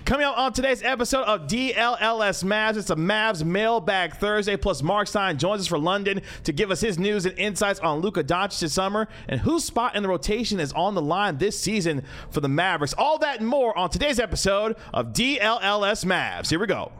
Coming up on today's episode of DLLS Mavs, it's a Mavs Mailbag Thursday, plus Mark Stein joins us for London to give us his news and insights on Luka Doncic this summer and whose spot in the rotation is on the line this season for the Mavericks. All that and more on today's episode of DLLS Mavs. Here we go.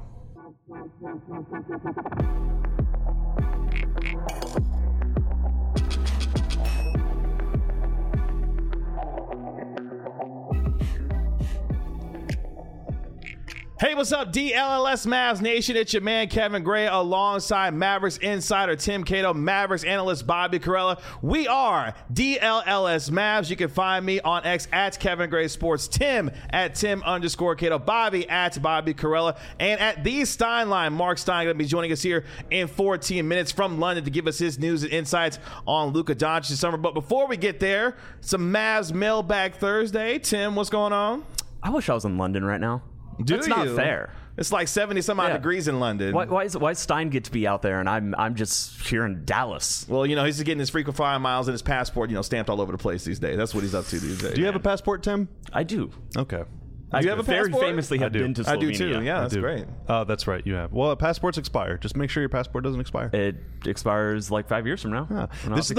Hey, what's up, DLLS Mavs Nation? It's your man, Kevin Gray, alongside Mavericks insider Tim Cato, Mavericks analyst Bobby Karalla. We are DLLS Mavs. You can find me on X at Kevin Gray Sports, Tim at Tim_Cato, Bobby at Bobby Karalla, and at the Steinline. Mark Stein going to be joining us here in 14 minutes from London to give us his news and insights on Luka Doncic this summer. But before we get there, some Mavs Mailbag Thursday. Tim, what's going on? I wish I was in London right now. That's not fair. It's like 70-some-odd degrees in London. Why does Stein get to be out there and I'm just here in Dallas? Well, you know, he's getting his frequent flyer miles and his passport, you know, stamped all over the place these days. That's what he's up to these days. Do you have a passport, Tim? I do. Okay. Do you have a very passport? famously have been to Slovenia. I do too. Yeah, that's great. Oh, that's right. You have. Well, passports expire. Just make sure your passport doesn't expire. It expires like 5 years from now. Yeah. This is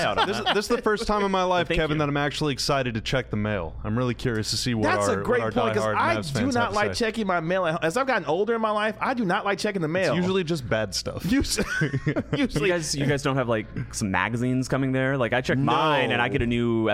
the first time in my life, Kevin, that I'm actually excited to check the mail. I'm really curious to see what That's our a great point, because I do not like say. checking my mail. As I've gotten older in my life, I do not like checking the mail. It's usually just bad stuff. Usually, you guys don't have like some magazines coming there. Like I check mine and I get a new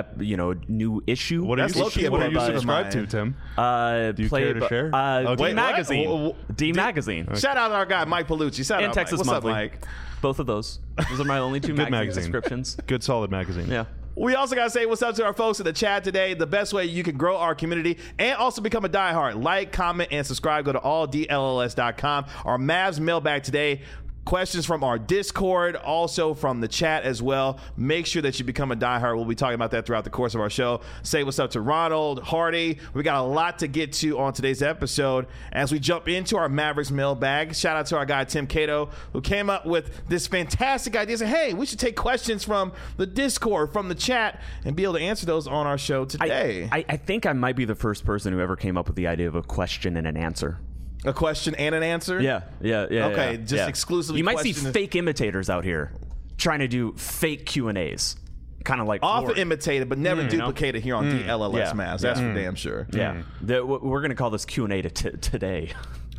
new issue. What are you subscribed to, Tim? Do you care to share? D Magazine. D Magazine. Shout out to our guy Mike Palucci. Shout out Texas Mike. What's Monthly. up, Mike? Both of those. Those are my only two magazine subscriptions. Good, solid magazine. Yeah. We also got to say what's up to our folks in the chat today. The best way you can grow our community and also become a diehard. Like, comment, and subscribe. Go to alldlls.com. Our Mavs mailbag today. Questions from our Discord, also from the chat as well. Make sure that you become a diehard. We'll be talking about that throughout the course of our show. Say what's up to Ronald, Hardy. We got a lot to get to on today's episode as we jump into our Mavericks mailbag. Shout out to our guy, Tim Cato, who came up with this fantastic idea. Said, hey, we should take questions from the Discord, from the chat, and be able to answer those on our show today. I think I might be the first person who ever came up with the idea of a question and an answer. A question and an answer? Yeah. Okay, just exclusively. You might see fake imitators out here trying to do fake Q&As. Kind of like often imitated, but never duplicated here on DLLS Mavs. That's for damn sure. Yeah. We're going to call this Q&A today.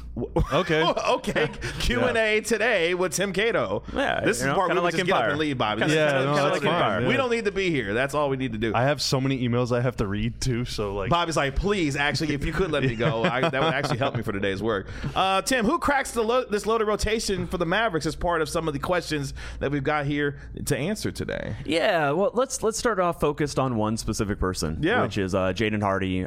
Okay. Okay. Q&A today with Tim Cato. Yeah. This is the part where we just get up and leave, Bobby. Kind of like Empire. We don't need to be here. That's all we need to do. I have so many emails I have to read too. So like, Bobby's like, please, actually, if you could let me go, that would actually help me for today's work. Tim, who cracks this loaded rotation for the Mavericks as part of some of the questions that we've got here to answer today? Yeah. Well, let's start off focused on one specific person. Yeah. Which is Jaden Hardy.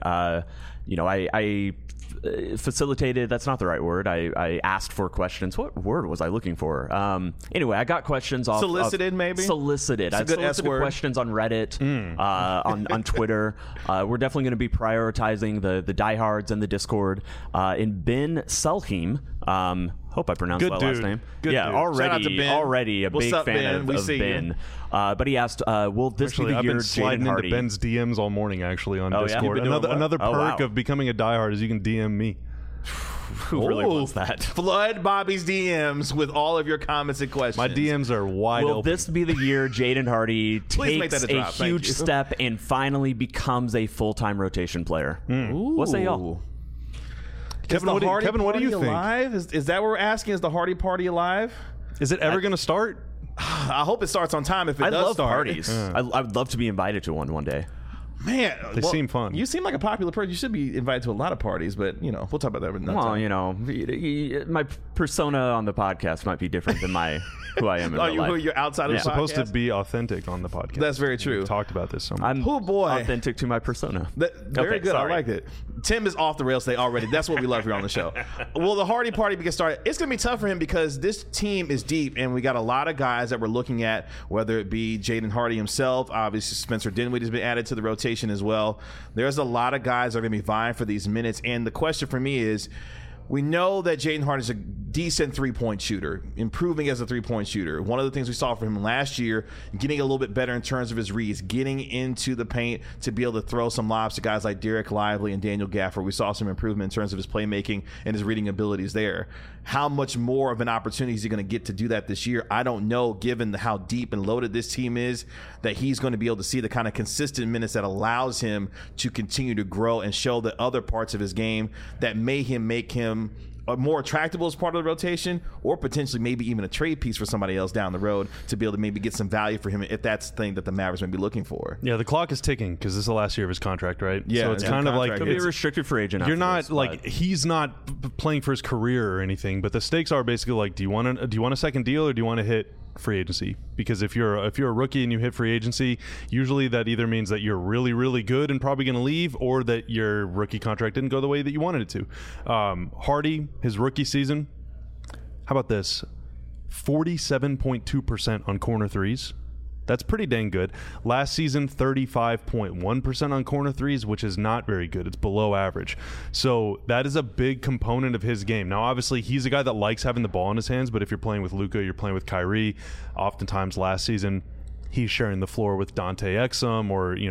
I facilitated, that's not the right word. I asked for questions. What word was I looking for? Anyway, I got questions off solicited, maybe? Solicited. I solicited questions on Reddit, on Twitter. We're definitely going to be prioritizing the diehards and the Discord. In Ben Selheim, hope I pronounced that last name. Good dude. Already a big fan of Ben. But he asked, will this be the year Jaden Hardy? I've been sliding into Ben's DMs all morning, actually, on Discord. Another perk of becoming a diehard is you can DM me. Who really wants that? Flood Bobby's DMs with all of your comments and questions. My DMs are wide open. Will this be the year Jaden Hardy takes a huge step and finally becomes a full-time rotation player? What say y'all? Kevin, what do you think? Is that what we're asking? Is the Hardy party alive? Is it ever going to start? I hope it starts on time if it does start. Parties. I would love to be invited to one day. Man, they seem fun. You seem like a popular person. You should be invited to a lot of parties, but we'll talk about that another time. Well, my persona on the podcast might be different than who I am in real life. You're outside of the podcast? You're supposed to be authentic on the podcast. That's very true. We've talked about this so much. I'm authentic to my persona. Very good. Sorry. I like it. Tim is off the rails today already. That's what we love here on the show. Will the Hardy party get started? It's going to be tough for him because this team is deep, and we got a lot of guys that we're looking at, whether it be Jaden Hardy himself. Obviously, Spencer Dinwiddie has been added to the rotation as well. There's a lot of guys that are going to be vying for these minutes, and the question for me is, we know that Jaden Hardy is a decent three-point shooter, improving as a three-point shooter. One of the things we saw from him last year, getting a little bit better in terms of his reads, getting into the paint to be able to throw some lobs to guys like Derek Lively and Daniel Gafford. We saw some improvement in terms of his playmaking and his reading abilities there. How much more of an opportunity is he going to get to do that this year? I don't know, given how deep and loaded this team is, that he's going to be able to see the kind of consistent minutes that allows him to continue to grow and show the other parts of his game that make him more attractable as part of the rotation, or potentially maybe even a trade piece for somebody else down the road to be able to maybe get some value for him if that's the thing that the Mavericks may be looking for. Yeah, the clock is ticking because this is the last year of his contract, right? Yeah, so it's kind of like could be a restricted free agent. You're not like he's not playing for his career or anything, but the stakes are basically like, do you want a second deal or do you want to hit free agency? Because if you're a rookie and you hit free agency, usually that either means that you're really, really good and probably going to leave, or that your rookie contract didn't go the way that you wanted it to. Hardy, his rookie season, how about this? 47.2% on corner threes. That's pretty dang good. Last season, 35.1% on corner threes, which is not very good. It's below average. So that is a big component of his game. Now, obviously, he's a guy that likes having the ball in his hands, but if you're playing with Luka, you're playing with Kyrie. Oftentimes last season, he's sharing the floor with Dante Exum or any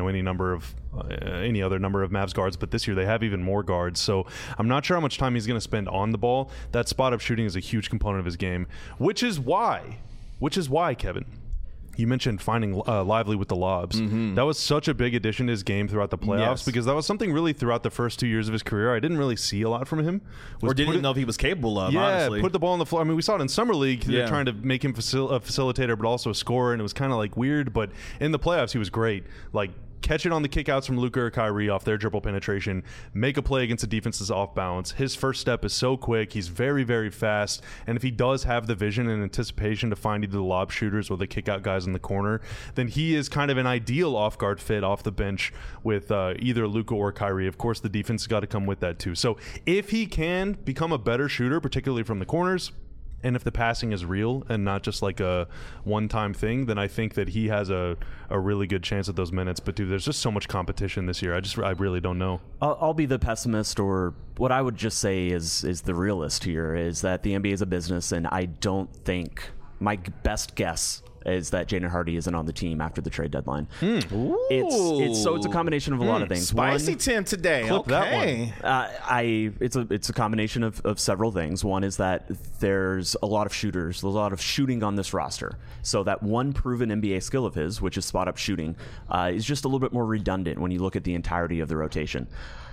other number of Mavs guards, but this year they have even more guards. So I'm not sure how much time he's going to spend on the ball. That spot-up shooting is a huge component of his game, which is why, Kevin, you mentioned finding Lively with the lobs. Mm-hmm. That was such a big addition to his game throughout the playoffs, because that was something really throughout the first 2 years of his career I didn't really see a lot from him. Or didn't know if he was capable of, honestly. Put the ball on the floor. I mean, we saw it in Summer League. They're trying to make him a facilitator but also a scorer, and it was kind of like weird. But in the playoffs, he was great. Like, catch it on the kickouts from Luka or Kyrie off their dribble penetration, make a play against the defense's off balance. His first step is so quick. He's very, very fast. And if he does have the vision and anticipation to find either the lob shooters or the kickout guys in the corner, then he is kind of an ideal off-guard fit off the bench with either Luka or Kyrie. Of course, the defense has got to come with that too. So if he can become a better shooter, particularly from the corners, and if the passing is real and not just like a one-time thing, then I think that he has a really good chance at those minutes. But, dude, there's just so much competition this year. I really don't know. I'll be the pessimist, or what I would just say is the realist here, is that the NBA is a business, and I don't think my best guess is that Jaden Hardy isn't on the team after the trade deadline. It's a combination of a lot of things. Spicy Tim today. Okay. It's a combination of several things. One is that there's a lot of shooters, a lot of shooting on this roster. So that one proven NBA skill of his, which is spot-up shooting, is just a little bit more redundant when you look at the entirety of the rotation.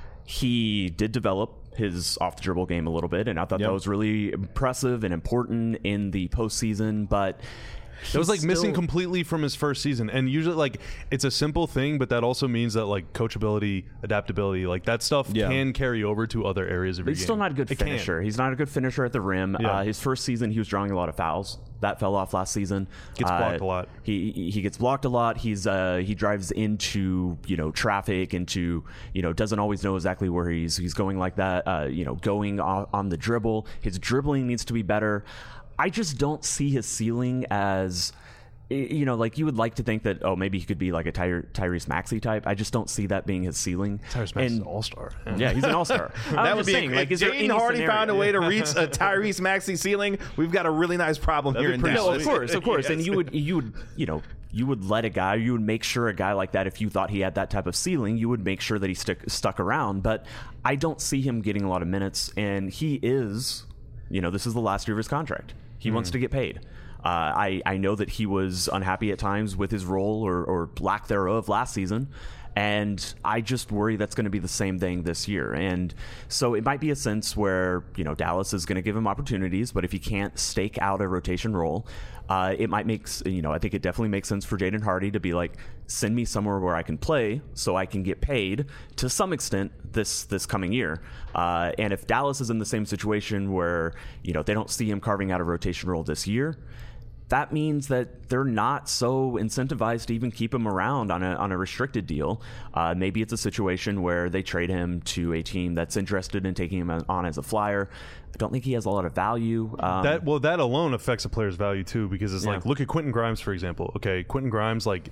He did develop his off-the-dribble game a little bit, and I thought that was really impressive and important in the postseason, but it was like missing completely from his first season. And usually, like, it's a simple thing, but that also means that, like, coachability, adaptability, like, that stuff can carry over to other areas of your game. He's still not a good finisher. He's not a good finisher at the rim. His first season, he was drawing a lot of fouls. That fell off last season. Gets blocked a lot. He gets blocked a lot. He drives into traffic, into doesn't always know exactly where he's going like that. Going on the dribble. His dribbling needs to be better. I just don't see his ceiling as, like you would like to think that, maybe he could be like a Tyrese Maxey type. I just don't see that being his ceiling. Tyrese Maxey's an all-star. Yeah, he's an all-star. That would be if Jaden Hardy found a way to reach a Tyrese Maxey ceiling, we've got a really nice problem here in Dallas. No, of course. And you would let a guy, you would make sure a guy like that, if you thought he had that type of ceiling, you would make sure that he stuck around. But I don't see him getting a lot of minutes, and he is, this is the last year of his contract. He wants to get paid. I know that he was unhappy at times with his role or lack thereof last season, and I just worry that's going to be the same thing this year. And so it might be a sense where Dallas is going to give him opportunities, but if he can't stake out a rotation role, it might make I think it definitely makes sense for Jaden Hardy to be like, send me somewhere where I can play so I can get paid to some extent this coming year. And if Dallas is in the same situation where they don't see him carving out a rotation role this year, that means that they're not so incentivized to even keep him around on a restricted deal. Maybe it's a situation where they trade him to a team that's interested in taking him on as a flyer. I don't think he has a lot of value. That alone affects a player's value too, because it's like, look at Quentin Grimes, for example. Okay, Quentin Grimes, like,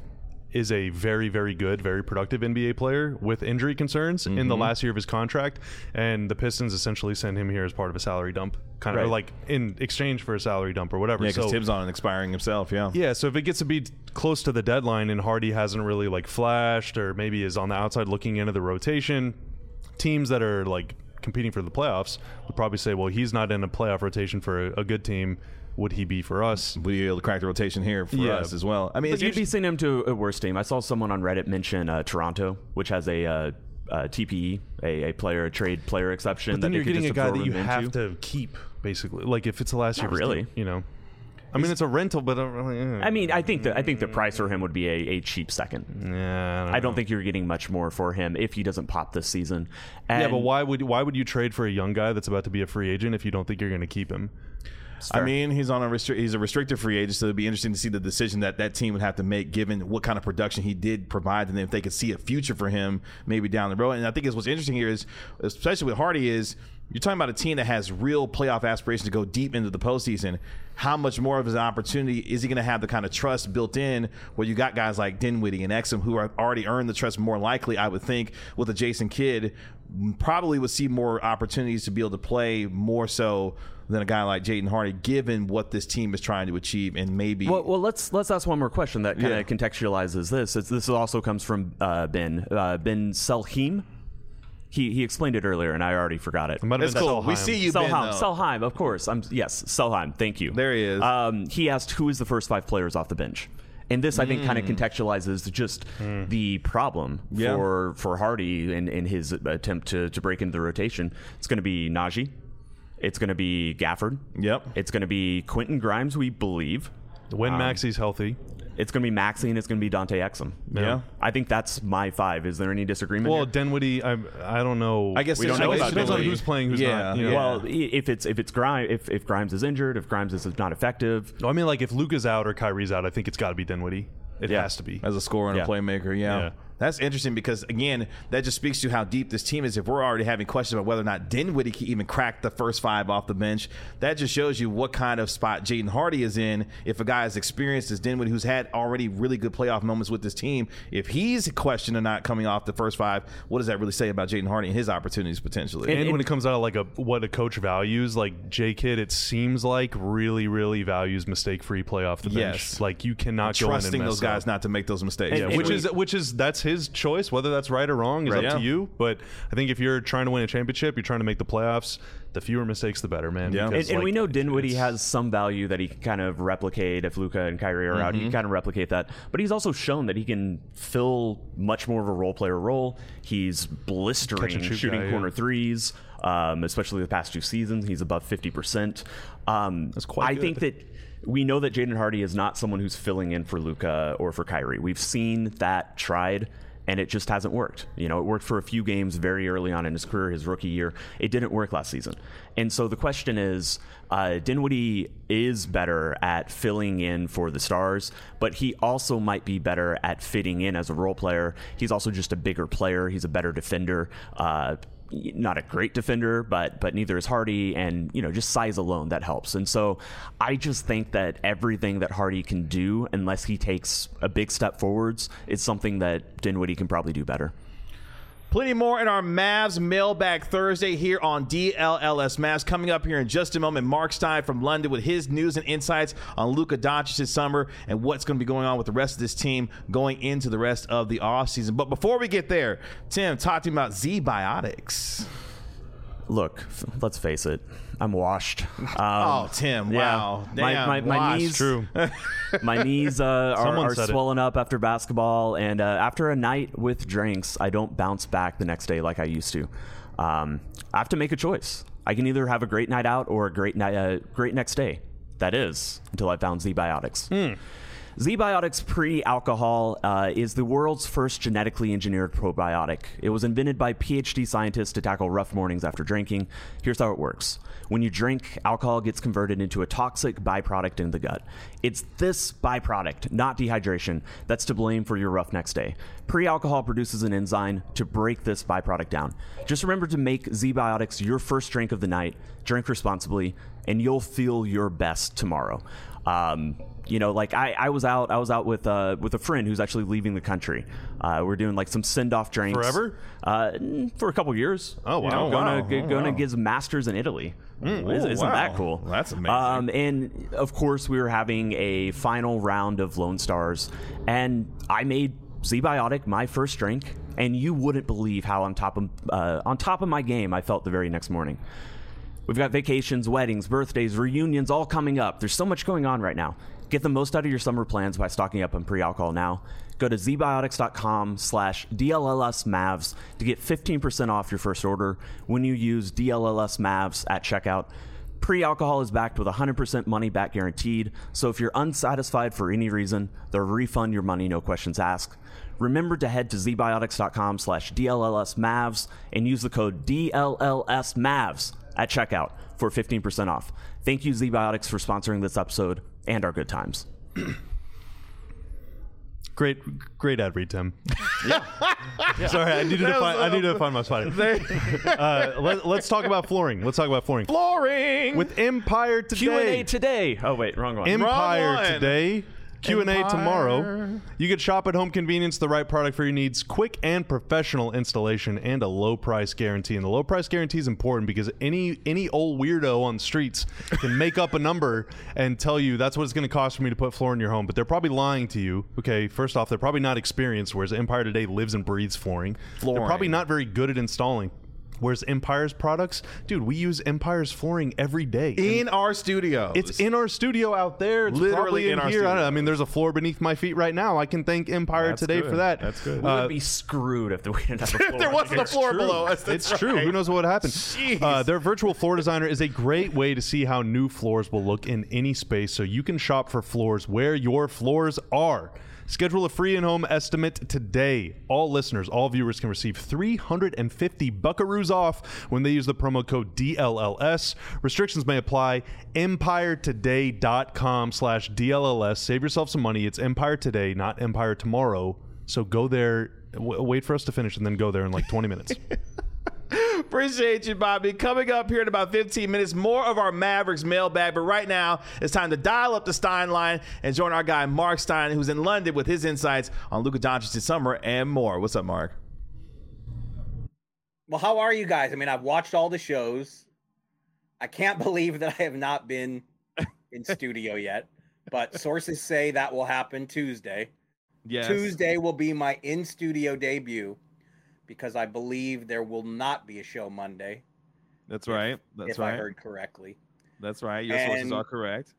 is a very, very good, very productive NBA player with injury concerns in the last year of his contract, and the Pistons essentially send him here as part of a salary dump, kind of like in exchange for a salary dump or whatever. Yeah, because Tibbs on expiring himself. Yeah. So if it gets to be close to the deadline and Hardy hasn't really like flashed, or maybe is on the outside looking into the rotation, teams that are like competing for the playoffs would probably say, well, he's not in a playoff rotation for a good team. Would he be for us? Would he be able to crack the rotation here for us as well? I mean, but you'd be sending him to a worse team. I saw someone on Reddit mention Toronto, which has a TPE, a trade player exception. But then you're getting a guy that you have to keep, basically. Like if it's the last year, really, you know. I mean, it's a rental, but I mean, I think the price for him would be a cheap second. Yeah, I don't think you're getting much more for him if he doesn't pop this season. And yeah, but why would you trade for a young guy that's about to be a free agent if you don't think you're going to keep him? I mean, he's a restricted free agent, so it'd be interesting to see the decision that team would have to make, given what kind of production he did provide, and then if they could see a future for him maybe down the road. And I think what's interesting here is, especially with Hardy, is you're talking about a team that has real playoff aspirations to go deep into the postseason. How much more of his opportunity is he going to have the kind of trust built in where you got guys like Dinwiddie and Exum who are already earned the trust more likely, I would think, with a Jason Kidd, probably would see more opportunities to be able to play more so than a guy like Jaden Hardy, given what this team is trying to achieve, and maybe. Well, let's ask one more question that kind of contextualizes this. This also comes from Ben Selheim. He explained it earlier, and I already forgot it. It's cool. We see you, Ben. Selheim, of course. Yes, Selheim. Thank you. There he is. He asked, who is the first 5 players off the bench? And this, I think, kind of contextualizes just the problem for Hardy in his attempt to break into the rotation. It's going to be Najee. It's going to be Gafford. Yep. It's going to be Quentin Grimes, we believe. When Maxi's healthy. It's going to be Maxey, and it's going to be Dante Exum. Yeah. I think that's my 5. Is there any disagreement here? Dinwiddie, I don't know. I guess we don't know about depends on who's playing, who's not. You know? Well, if Grimes is injured, if Grimes is not effective. I mean, like if Luka's out or Kyrie's out, I think it's got to be Dinwiddie. It has to be. As a scorer and a playmaker, yeah. That's interesting because, again, that just speaks to how deep this team is. If we're already having questions about whether or not Dinwiddie can even crack the first 5 off the bench, that just shows you what kind of spot Jaden Hardy is in. If a guy as experienced as Dinwiddie, who's had already really good playoff moments with this team, if he's questioned or not coming off the first 5, what does that really say about Jaden Hardy and his opportunities potentially? And when it comes out of like what a coach values, like J. Kidd, it seems like really, really values mistake-free play off the bench. Yes. Like you cannot go in and mess trusting those guys not to make those mistakes. Yeah, which is that's his choice. Whether that's right or wrong is up to you. But I think if you're trying to win a championship, you're trying to make the playoffs, the fewer mistakes, the better, man. Yeah. Because, and we know Dinwiddie has some value that he can kind of replicate if Luka and Kyrie are out. He can kind of replicate that. But he's also shown that he can fill much more of a role player role. He's blistering shooting corner threes, especially the past 2 seasons. He's above 50%. That's quite good. I think that we know that Jaden Hardy is not someone who's filling in for Luka or for Kyrie. We've seen that tried, and it just hasn't worked. You know, it worked for a few games very early on in his career, his rookie year. It didn't work last season. And so the question is, Dinwiddie is better at filling in for the stars, but he also might be better at fitting in as a role player. He's also just a bigger player. He's a better defender. Not a great defender, but neither is Hardy, and just size alone that helps. And so I just think that everything that Hardy can do, unless he takes a big step forwards, is something that Dinwiddie can probably do better. Plenty more in our Mavs Mailbag Thursday here on DLLS Mavs. Coming up here in just a moment, Mark Stein from London with his news and insights on Luka Doncic this summer and what's going to be going on with the rest of this team going into the rest of the offseason. But before we get there, Tim, talk to me about Z-Biotics. Look, let's face it, I'm washed. Tim, wow. Damn, my knees, true. My knees are swollen up after basketball, and after a night with drinks, I don't bounce back the next day like I used to. I have to make a choice. I can either have a great night out or a great next day. That is, until I found Z-Biotics. Z-Biotics Pre-Alcohol is the world's first genetically engineered probiotic. It was invented by PhD scientists to tackle rough mornings after drinking. Here's how it works. When you drink, alcohol gets converted into a toxic byproduct in the gut. It's this byproduct, not dehydration, that's to blame for your rough next day. Pre-alcohol produces an enzyme to break this byproduct down. Just remember to make Z-Biotics your first drink of the night. Drink responsibly. and you'll feel your best tomorrow. Like I was out with a friend who's actually leaving the country. We're doing like some send-off drinks. Forever? For a couple years. Oh, wow. Going to get his master's in Italy. Isn't that cool? That's amazing. And of course, we were having a final round of Lone Stars, and I made Z-Biotic my first drink, and you wouldn't believe how on top of my game I felt the very next morning. We've got vacations, weddings, birthdays, reunions all coming up. There's so much going on right now. Get the most out of your summer plans by stocking up on pre-alcohol now. Go to zbiotics.com/DLLSMavs to get 15% off your first order when you use DLLSMavs at checkout. Pre-alcohol is backed with 100% money back guaranteed, so if you're unsatisfied for any reason, they'll refund your money, no questions asked. Remember to head to zbiotics.com/DLLSMavs and use the code DLLSMavs at checkout for 15% off. Thank you, Z-Biotics, for sponsoring this episode and our good times. Great ad read, Tim. Yeah. Sorry, I needed to find my spot. Let's talk about flooring. Flooring with Empire today. Q&A today. Oh wait, wrong one. Empire today. Q&A tomorrow. You can shop at home convenience, the right product for your needs, quick and professional installation, and a low price guarantee. And the low price guarantee is important because any old weirdo on the streets can make up a number and tell you that's what it's going to cost for me to put floor in your home. But they're probably lying to you. Okay, first off, they're probably not experienced, whereas Empire today lives and breathes flooring. They're probably not very good at installing. Whereas Empire's products, dude, we use Empire's flooring every day. In our studio. It's in our studio out there. It's literally in our here. studio. I mean, there's a floor beneath my feet right now. I can thank Empire today for that. That's good. We would be screwed if we didn't have a floor. If there wasn't a floor below us. It's true. Who knows what would happen? Their virtual floor designer is a great way to see how new floors will look in any space, so you can shop for floors where your floors are. Schedule a free in-home estimate today. All listeners, all viewers can receive 350 buckaroos off when they use the promo code DLLS. Restrictions may apply. EmpireToday.com/DLLS. Save yourself some money. It's Empire Today, not Empire Tomorrow. So go there, wait for us to finish, and then go there in like 20 minutes. Appreciate you, Bobby. Coming up here in about 15 minutes, more of our Mavericks mailbag. But right now, it's time to dial up the Stein line and join our guy, Mark Stein, who's in London with his insights on Luka Doncic's summer and more. What's up, Mark? Well, how are you guys? I mean, I've watched all the shows. I can't believe that I have not been in studio yet, but sources say that will happen Tuesday. Yes. Tuesday will be my in-studio debut, because I believe there will not be a show Monday. That's right. If I heard correctly. That's right. Your sources are correct.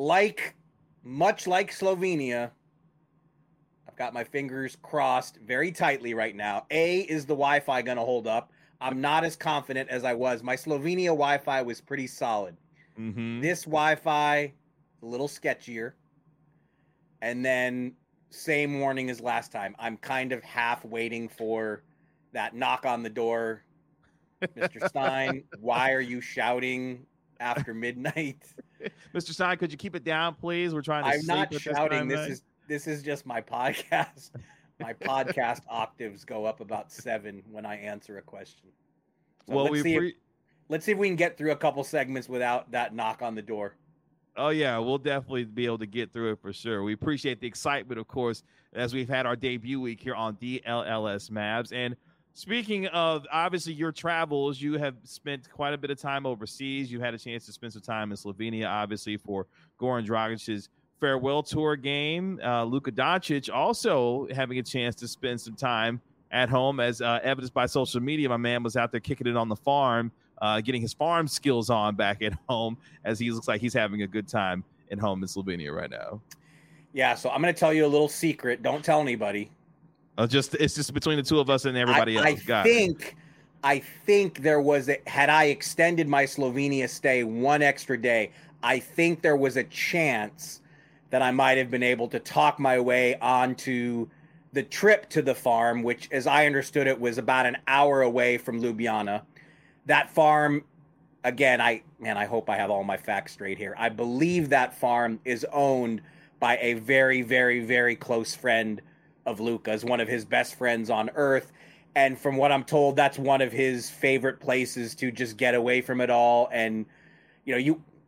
Much like Slovenia, I've got my fingers crossed very tightly right now. Is the Wi-Fi going to hold up? I'm not as confident as I was. My Slovenia Wi-Fi was pretty solid. Mm-hmm. This Wi-Fi, a little sketchier. And then same warning as last time. I'm kind of half waiting for that knock on the door. Mr. Stein, why are you shouting after midnight? Mr. Stein, could you keep it down, please? We're trying to I'm sleep not at shouting. This This is just my podcast. My podcast octaves go up about 7 when I answer a question. So well, let's see if we can get through a couple segments without that knock on the door. Oh, yeah, we'll definitely be able to get through it for sure. We appreciate the excitement, of course, as we've had our debut week here on DLLS Mavs. And speaking of, obviously, your travels, you have spent quite a bit of time overseas. You had a chance to spend some time in Slovenia, obviously, for Goran Dragic's farewell tour game. Luka Doncic also having a chance to spend some time at home, as evidenced by social media. My man was out there kicking it on the farm, getting his farm skills on back at home, as he looks like he's having a good time at home in Slovenia right now. Yeah, so I'm going to tell you a little secret. Don't tell anybody. It's just between the two of us and everybody else. I think there was had I extended my Slovenia stay one extra day, I think there was a chance that I might have been able to talk my way onto the trip to the farm, which, as I understood it, was about an hour away from Ljubljana. That farm, again, I hope I have all my facts straight here. I believe that farm is owned by a very, very, very close friend of Luka's, one of his best friends on earth. And from what I'm told, that's one of his favorite places to just get away from it all. And,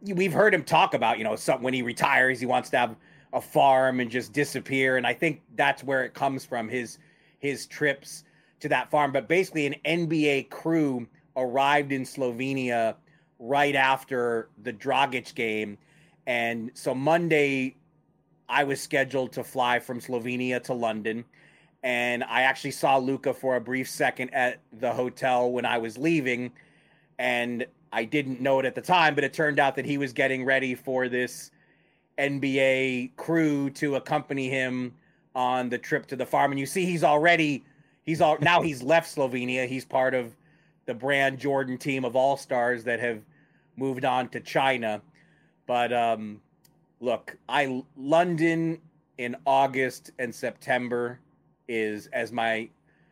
we've heard him talk about, when he retires, he wants to have a farm and just disappear. And I think that's where it comes from, his trips to that farm. But basically an NBA crew arrived in Slovenia right after the Dragic game. And so Monday I was scheduled to fly from Slovenia to London. And I actually saw Luka for a brief second at the hotel when I was leaving. And I didn't know it at the time, but it turned out that he was getting ready for this NBA crew to accompany him on the trip to the farm. And you see, now he's left Slovenia. He's part of the Brand Jordan team of all-stars that have moved on to China. But look, London in August and September is, as my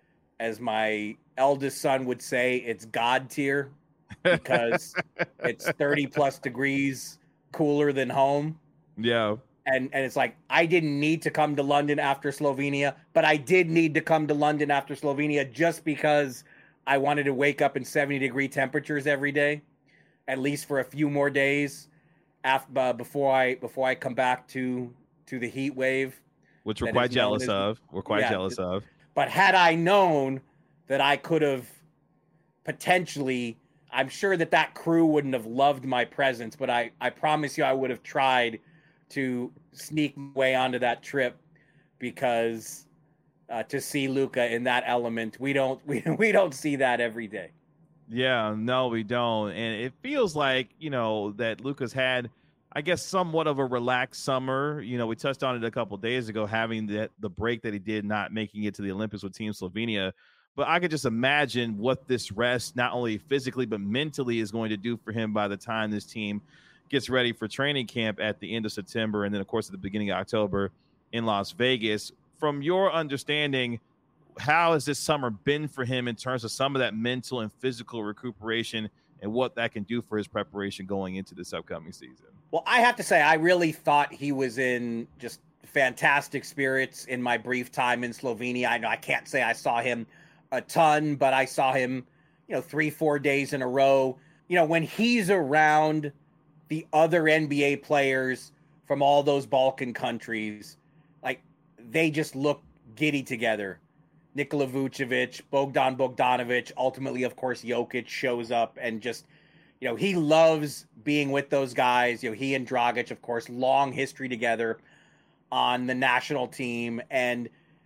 eldest son would say, it's God tier, because it's 30 plus degrees cooler than home. Yeah. And it's like, I didn't need to come to London after Slovenia, but I did need to come to London after Slovenia just because I wanted to wake up in 70-degree temperatures every day, at least for a few more days before I come back to the heat wave. Which we're quite jealous of. But had I known that I could have potentially, I'm sure that crew wouldn't have loved my presence, but I promise you I would have tried to sneak my way onto that trip, because to see Luka in that element, we don't see that every day. Yeah, no, we don't. And it feels like, that Luka's had, I guess, somewhat of a relaxed summer. We touched on it a couple of days ago, having the break that he did, not making it to the Olympics with Team Slovenia. But I could just imagine what this rest, not only physically but mentally, is going to do for him by the time this team gets ready for training camp at the end of September, and then, of course, at the beginning of October in Las Vegas. From your understanding, how has this summer been for him in terms of some of that mental and physical recuperation, and what that can do for his preparation going into this upcoming season? Well, I have to say, I really thought he was in just fantastic spirits in my brief time in Slovenia. I know I can't say I saw him a ton, but I saw him, 3-4 days in a row. When he's around the other NBA players from all those Balkan countries, like, they just look giddy together. Nikola Vucevic, Bogdan Bogdanovic, ultimately, of course, Jokic shows up, and just, he loves being with those guys. He and Dragic, of course, long history together on the national team. And,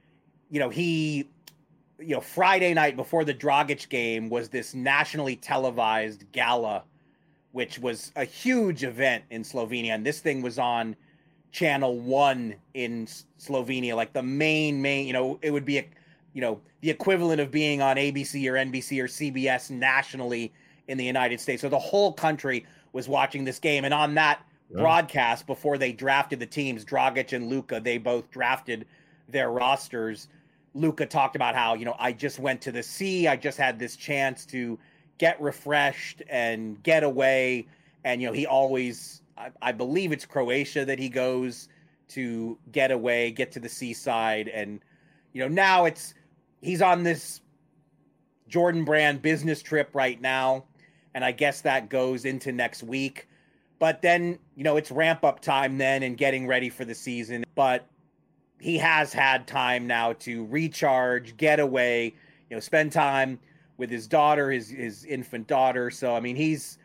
Friday night before the Dragic game was this nationally televised gala, which was a huge event in Slovenia. And this thing was on Channel 1 in Slovenia, like the main, it would be the equivalent of being on ABC or NBC or CBS nationally in the United States. So the whole country was watching this game. And on that broadcast, before they drafted the teams, Dragic and Luka, they both drafted their rosters. Luka talked about how, I just went to the sea. I just had this chance to get refreshed and get away. And, he always, I believe it's Croatia that he goes to get away, get to the seaside. And, now he's on this Jordan Brand business trip right now. And I guess that goes into next week. But then, it's ramp up time then and getting ready for the season. But he has had time now to recharge, get away, spend time with his daughter, his infant daughter. So, I mean,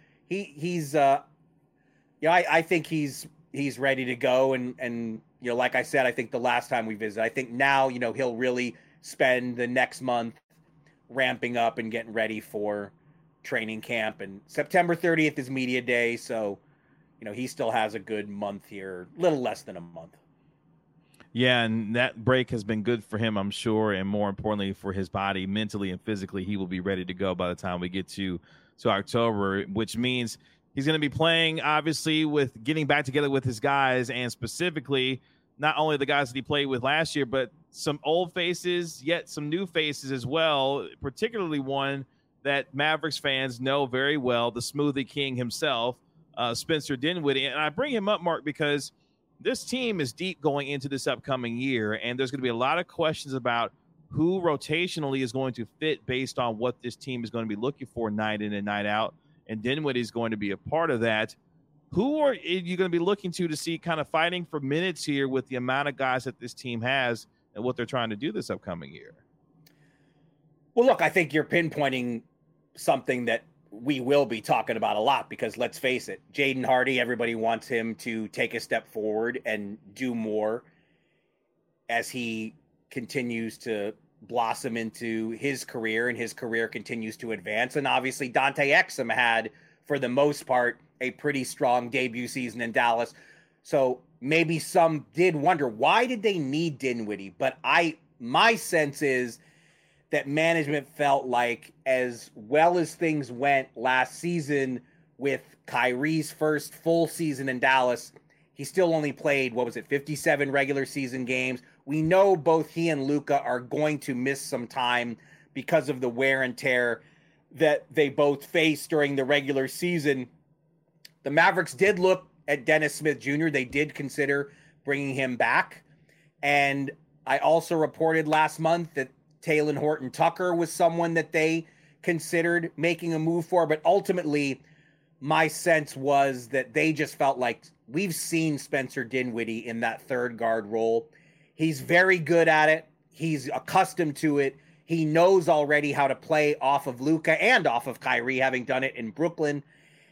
I think he's ready to go. And, like I said, I think the last time we visited, I think now, he'll really spend the next month ramping up and getting ready for training camp. And September 30th is media day. So, he still has a good month here, a little less than a month. Yeah, and that break has been good for him, I'm sure, and more importantly for his body, mentally and physically. He will be ready to go by the time we get to October, which means he's going to be playing, obviously, with getting back together with his guys, and specifically not only the guys that he played with last year, but some old faces, yet some new faces as well, particularly one that Mavericks fans know very well, the Smoothie King himself, Spencer Dinwiddie. And I bring him up, Mark, because this team is deep going into this upcoming year, and there's going to be a lot of questions about who rotationally is going to fit based on what this team is going to be looking for night in and night out, and Dinwiddie is going to be a part of that. who are you going to be looking to see kind of fighting for minutes here with the amount of guys that this team has and what they're trying to do this upcoming year? Well, look, I think you're pinpointing something that we will be talking about a lot because let's face it, Jaden Hardy, everybody wants him to take a step forward and do more as he continues to blossom into his career and his career continues to advance. And obviously Dante Exum had, for the most part, a pretty strong debut season in Dallas. So maybe some did wonder, why did they need Dinwiddie? But my sense is that management felt like as well as things went last season with Kyrie's first full season in Dallas, he still only played, 57 regular season games. We know both he and Luka are going to miss some time because of the wear and tear that they both faced during the regular season. The Mavericks did look at Dennis Smith Jr. They did consider bringing him back. And I also reported last month that Talen Horton-Tucker was someone that they considered making a move for. But ultimately, my sense was that they just felt like we've seen Spencer Dinwiddie in that third guard role. He's very good at it. He's accustomed to it. He knows already how to play off of Luka and off of Kyrie, having done it in Brooklyn.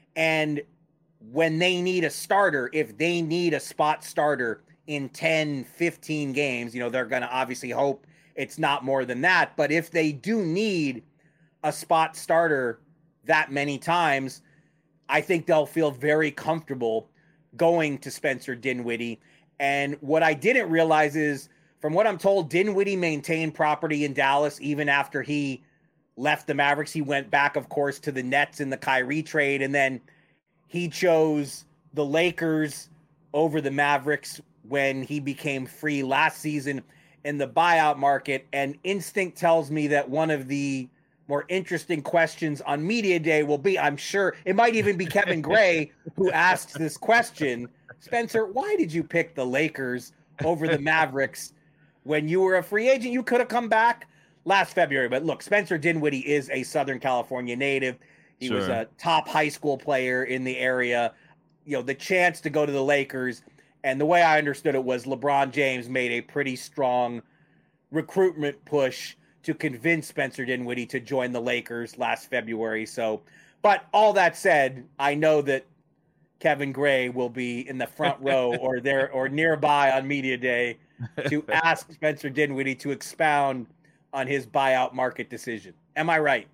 And when they need a starter, if they need a spot starter in 10, 15 games, they're going to obviously hope it's not more than that. But if they do need a spot starter that many times, I think they'll feel very comfortable going to Spencer Dinwiddie. And what I didn't realize is, from what I'm told, Dinwiddie maintained property in Dallas even after he left the Mavericks. He went back, of course, to the Nets in the Kyrie trade, and then he chose the Lakers over the Mavericks when he became free last season in the buyout market. And instinct tells me that one of the more interesting questions on Media Day will be, I'm sure it might even be Kevin Gray who asks this question. Spencer, why did you pick the Lakers over the Mavericks when you were a free agent? You could have come back last February. But look, Spencer Dinwiddie is a Southern California native. He was a top high school player in the area. The chance to go to the Lakers, and the way I understood it was LeBron James made a pretty strong recruitment push to convince Spencer Dinwiddie to join the Lakers last February. So, but all that said, I know that Kevin Gray will be in the front row or there or nearby on Media Day to ask Spencer Dinwiddie to expound on his buyout market decision. Am I right?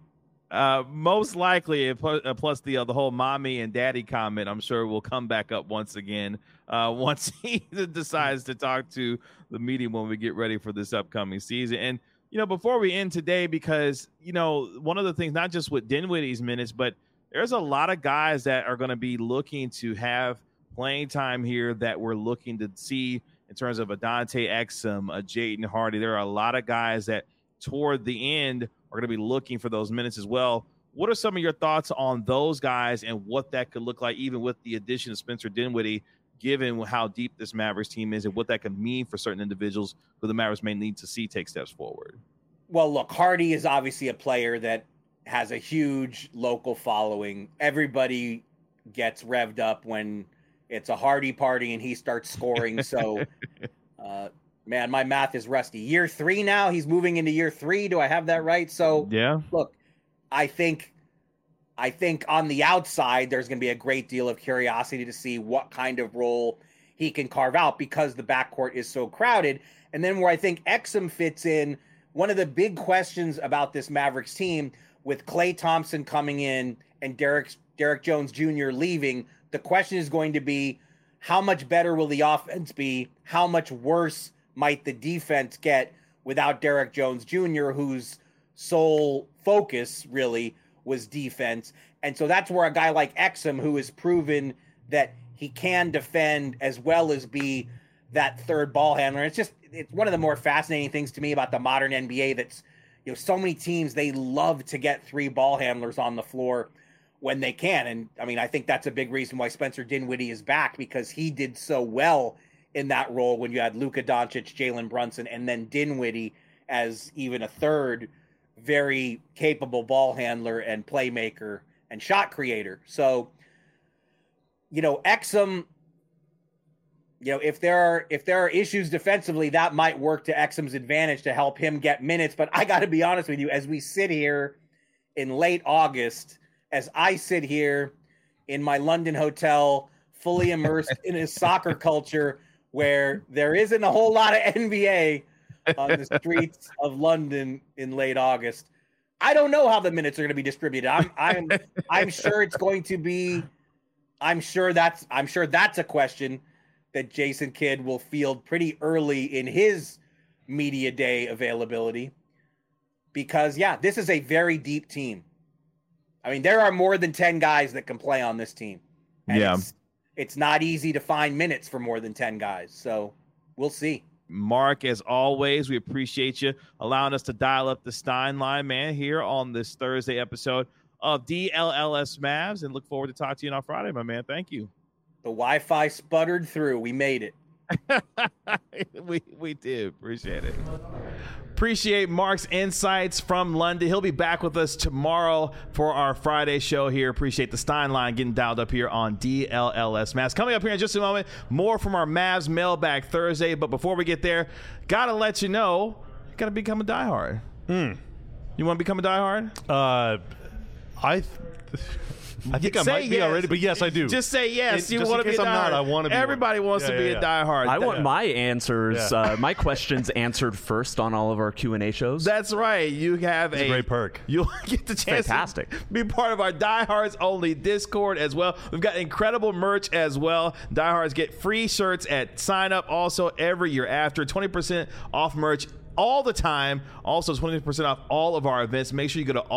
Most likely, plus the whole mommy and daddy comment, I'm sure will come back up once again once he decides to talk to the media when we get ready for this upcoming season. And, before we end today, because, one of the things, not just with Dinwiddie's minutes, but there's a lot of guys that are going to be looking to have playing time here that we're looking to see in terms of a Dante Exum, a Jaden Hardy. There are a lot of guys that toward the end are going to be looking for those minutes as well. What are some of your thoughts on those guys and what that could look like, even with the addition of Spencer Dinwiddie, given how deep this Mavericks team is and what that could mean for certain individuals who the Mavericks may need to see take steps forward? Well, look, Hardy is obviously a player that has a huge local following. Everybody gets revved up when it's a Hardy party and he starts scoring. So, man, my math is rusty. Year 3 now. He's moving into year 3. Do I have that right? So, yeah. Look, I think on the outside, there's going to be a great deal of curiosity to see what kind of role he can carve out because the backcourt is so crowded. And then where I think Exum fits in, one of the big questions about this Mavericks team with Klay Thompson coming in and Derek Jones Jr. leaving, the question is going to be, how much better will the offense be? How much worse might the defense get without Derek Jones Jr., whose sole focus really was defense? And so that's where a guy like Exum, who has proven that he can defend as well as be that third ball handler. It's one of the more fascinating things to me about the modern NBA that's, so many teams, they love to get 3 ball handlers on the floor when they can. And I mean, I think that's a big reason why Spencer Dinwiddie is back, because he did so well in that role when you had Luka Doncic, Jalen Brunson, and then Dinwiddie as even a third very capable ball handler and playmaker and shot creator. So Exum, if there are issues defensively, that might work to Exum's advantage to help him get minutes. But I got to be honest with you, as we sit here in late August, as I sit here in my London hotel, fully immersed in a soccer culture where there isn't a whole lot of NBA on the streets of London in late August, I don't know how the minutes are going to be distributed. I'm sure it's going to be. I'm sure that's a question that Jason Kidd will field pretty early in his media day availability, because this is a very deep team. I mean, there are more than 10 guys that can play on this team. And it's not easy to find minutes for more than 10 guys. So we'll see. Mark, as always, we appreciate you allowing us to dial up the Stein line, man, here on this Thursday episode of DLLS Mavs, and look forward to talking to you on Friday, my man. Thank you. The Wi-Fi sputtered through. We made it. we did. Appreciate it. Appreciate Mark's insights from London. He'll be back with us tomorrow for our Friday show here. Appreciate the Stein line getting dialed up here on DLLS Mavs. Coming up here in just a moment, more from our Mavs Mailbag Thursday. But before we get there, got to let you know, you got to become a diehard. You want to become a diehard? I think I might be already, but yes, I do. Just say yes. You just want to be a diehard. I want to be. Everybody wants to be a diehard. I want my answers, my questions answered first on all of our Q&A shows. That's right. You have a great perk. You'll get the chance to be part of our Diehards Only Discord as well. We've got incredible merch as well. Diehards get free shirts at sign up also every year after. 20% off merch all the time. Also 20% off all of our events. Make sure you go to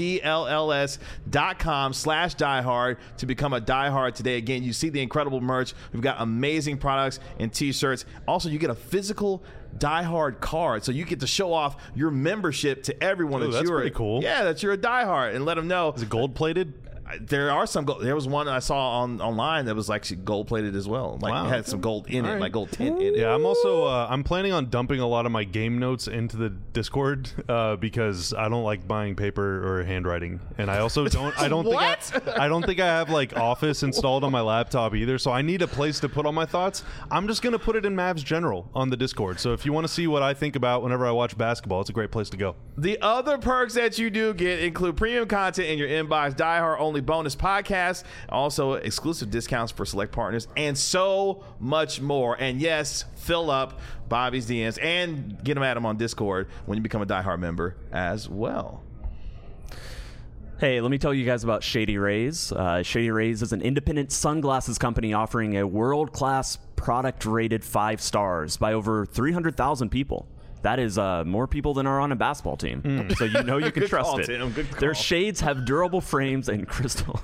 alldlls.com/diehard to become a diehard today. Again, you see the incredible merch. We've got amazing products and t-shirts. Also, you get a physical diehard card, so you get to show off your membership to everyone. That's pretty cool. Yeah, that you're a diehard, and let them know. Is it gold plated? There are some gold. There was one I saw online that was actually gold plated as well. It had some gold in it, like gold tint in it. Yeah, I'm also I'm planning on dumping a lot of my game notes into the Discord because I don't like buying paper or handwriting, and I also don't. I don't think I don't think I have Office installed on my laptop either. So I need a place to put all my thoughts. I'm just gonna put it in Mavs General on the Discord. So if you want to see what I think about whenever I watch basketball, it's a great place to go. The other perks that you do get include premium content in your inbox, diehard only bonus podcasts, also exclusive discounts for select partners, and so much more. And yes, fill up Bobby's DMs and get them at him on Discord when you become a diehard member as well. Hey, let me tell you guys about Shady Rays. Shady Rays is an independent sunglasses company offering a world-class product rated 5 stars by over 300,000 people. That is more people than are on a basketball team. So you can trust it. Tim. Good call. Their shades have durable frames and crystal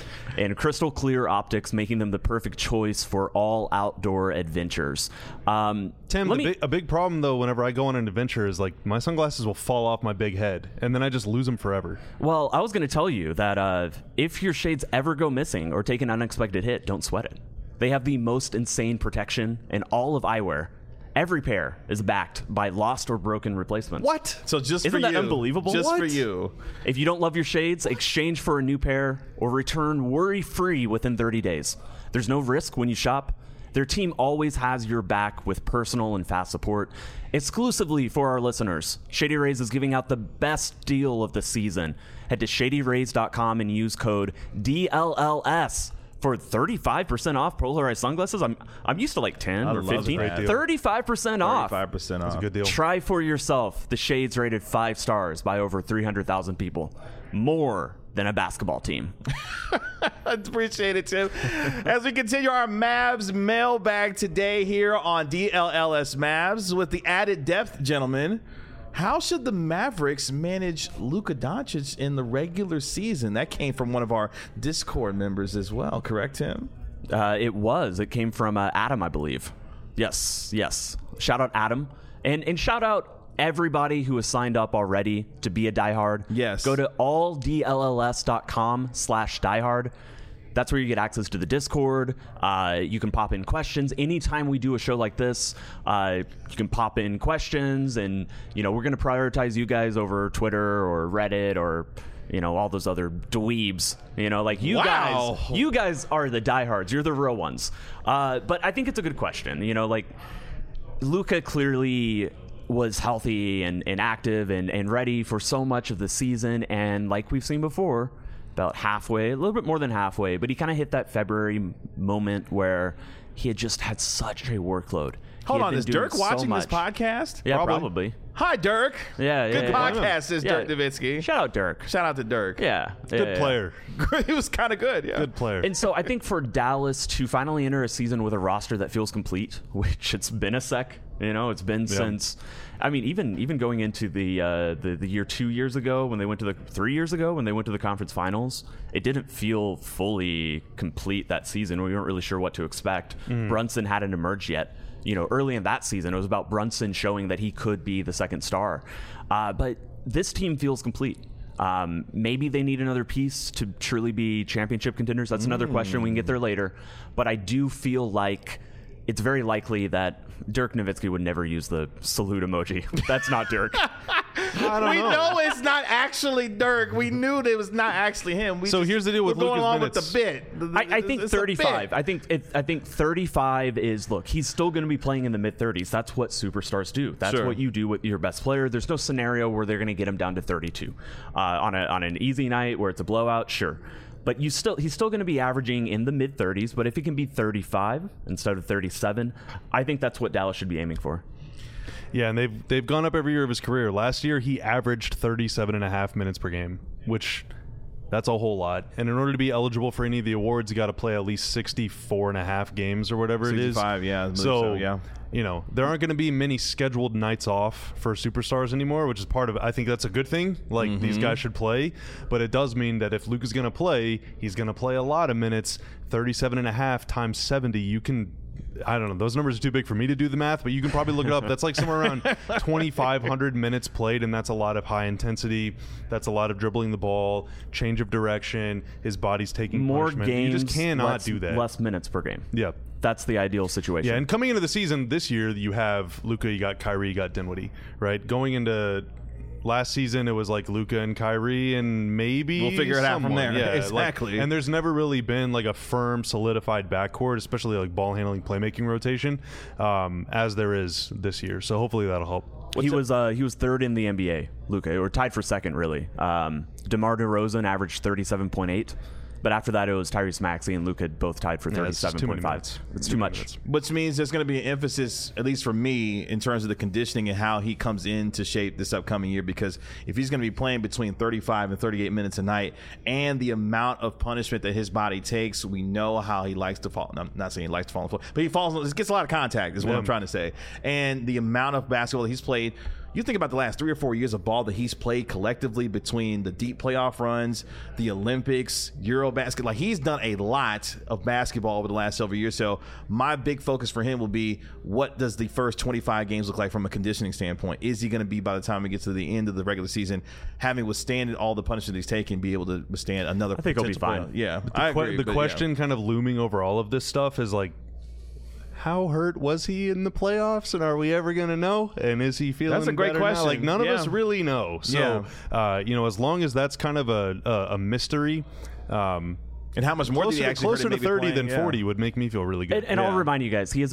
clear optics, making them the perfect choice for all outdoor adventures. Tim, a big problem though whenever I go on an adventure is my sunglasses will fall off my big head and then I just lose them forever. Well, I was going to tell you that if your shades ever go missing or take an unexpected hit, don't sweat it. They have the most insane protection in all of eyewear. Every pair is backed by lost or broken replacements. What? So just Isn't for that you. Unbelievable? Just what? for you. If you don't love your shades, exchange for a new pair or return worry-free within 30 days. There's no risk when you shop. Their team always has your back with personal and fast support. Exclusively for our listeners, Shady Rays is giving out the best deal of the season. Head to shadyrays.com and use code DLLS for 35% off polarized sunglasses. I'm used to 10 or 15. 35% off. 35% off. That's a good deal. Try for yourself the shades rated 5 stars by over 300,000 people. More than a basketball team. I appreciate it, Tim. As we continue our Mavs mailbag today here on DLLS Mavs with the added depth, gentlemen. How should the Mavericks manage Luka Doncic in the regular season? That came from one of our Discord members as well, correct, Tim? It was. It came from Adam, I believe. Yes. Shout out Adam. And shout out everybody who has signed up already to be a diehard. Yes. Go to alldlls.com/diehard. That's where you get access to the Discord. You can pop in questions. Anytime we do a show like this, you can pop in questions, and we're going to prioritize you guys over Twitter or Reddit or all those other dweebs. Like you guys are the diehards. You're the real ones. But I think it's a good question. Like Luka clearly was healthy and active and ready for so much of the season. And like we've seen before, about halfway, a little bit more than halfway, but he kind of hit that February moment where he had just had such a workload. Hold on, is Dirk watching this podcast? Yeah, probably. Hi, Dirk. Good podcast, says Dirk Nowitzki. Shout out Dirk. Shout out to Dirk. Yeah. Good player. He was kind of good, yeah. Good player. And so I think for Dallas to finally enter a season with a roster that feels complete, which it's been a sec, it's been since, even going into the year 2 years ago when they went to 3 years ago when they went to the conference finals, it didn't feel fully complete that season. We weren't really sure what to expect. Brunson hadn't emerged yet. Early in that season, it was about Brunson showing that he could be the second star. But this team feels complete. Maybe they need another piece to truly be championship contenders. That's another question. We can get there later. But I do feel like it's very likely that Dirk Nowitzki would never use the salute emoji. That's not Dirk. We know it's not actually Dirk. We knew it was not actually him. Here's the deal with Luka's minutes. With the bit. I think 35. I think 35 is, look, he's still going to be playing in the mid-30s. That's what superstars do. That's what you do with your best player. There's no scenario where they're going to get him down to 32 on an easy night where it's a blowout. Sure. But he's still going to be averaging in the mid-30s. But if he can be 35 instead of 37, I think that's what Dallas should be aiming for. Yeah, and they've gone up every year of his career. Last year, he averaged 37.5 minutes per game, which that's a whole lot. And in order to be eligible for any of the awards, you got to play at least 64.5 games or whatever it is. 65, yeah. So, yeah. There aren't going to be many scheduled nights off for superstars anymore, which is part of it. I think that's a good thing. Like, these guys should play. But it does mean that if Luke is going to play, he's going to play a lot of minutes. 37.5 times 70, you can... I don't know. Those numbers are too big for me to do the math, but you can probably look it up. That's like somewhere around 2,500 minutes played, and that's a lot of high intensity. That's a lot of dribbling the ball, change of direction. His body's taking more punishment. games. You just cannot do that. Less minutes per game. Yeah. That's the ideal situation. Yeah, and coming into the season this year, you have Luka, you got Kyrie, you got Dinwiddie, right? Going into last season, it was like Luka and Kyrie, and maybe we'll figure it out from there. Yeah, exactly. And there's never really been like a firm, solidified backcourt, especially like ball handling, playmaking rotation, as there is this year. So hopefully that'll help. He was third in the NBA, Luka, or tied for second, really. DeMar DeRozan averaged 37.8. But after that, it was Tyrese Maxey and Luka both tied for 37.5. It's too much. Which means there's going to be an emphasis, at least for me, in terms of the conditioning and how he comes into shape this upcoming year. Because if he's going to be playing between 35 and 38 minutes a night, and the amount of punishment that his body takes, we know how he likes to fall. I'm not saying he likes to fall on the floor, but he gets a lot of contact, is what I'm trying to say. And the amount of basketball that he's played. You think about the last 3 or 4 years of ball that he's played collectively between the deep playoff runs, the Olympics, Eurobasket. Like, he's done a lot of basketball over the last several years. So my big focus for him will be, what does the first 25 games look like from a conditioning standpoint? Is he going to be, by the time he gets to the end of the regular season, having withstanded all the punishment he's taken, be able to withstand another? I think he'll be fine. Yeah, I agree. The question kind of looming over all of this stuff is like, how hurt was he in the playoffs, and are we ever going to know? And is he feeling That's a great better question. now? Like, none of us really know. So, as long as that's kind of a mystery, and how much more closer to 30 than 40 would make me feel really good. And I'll remind you guys, he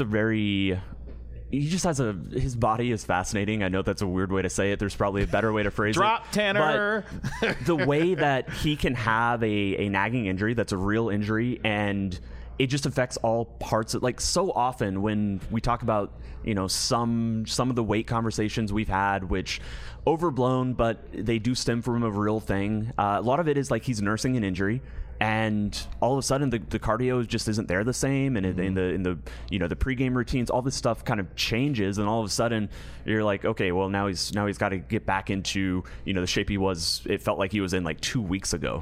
just has his body is fascinating. I know that's a weird way to say it. There's probably a better way to phrase it. Drop Tanner. But the way that he can have a nagging injury that's a real injury, and it just affects all parts of, like, so often when we talk about, some of the weight conversations we've had, which overblown, but they do stem from a real thing. A lot of it is like he's nursing an injury, and all of a sudden the cardio just isn't there the same, and in the the pregame routines, all this stuff kind of changes, and all of a sudden you're like, okay, well now he's got to get back into the shape it felt like he was in like 2 weeks ago.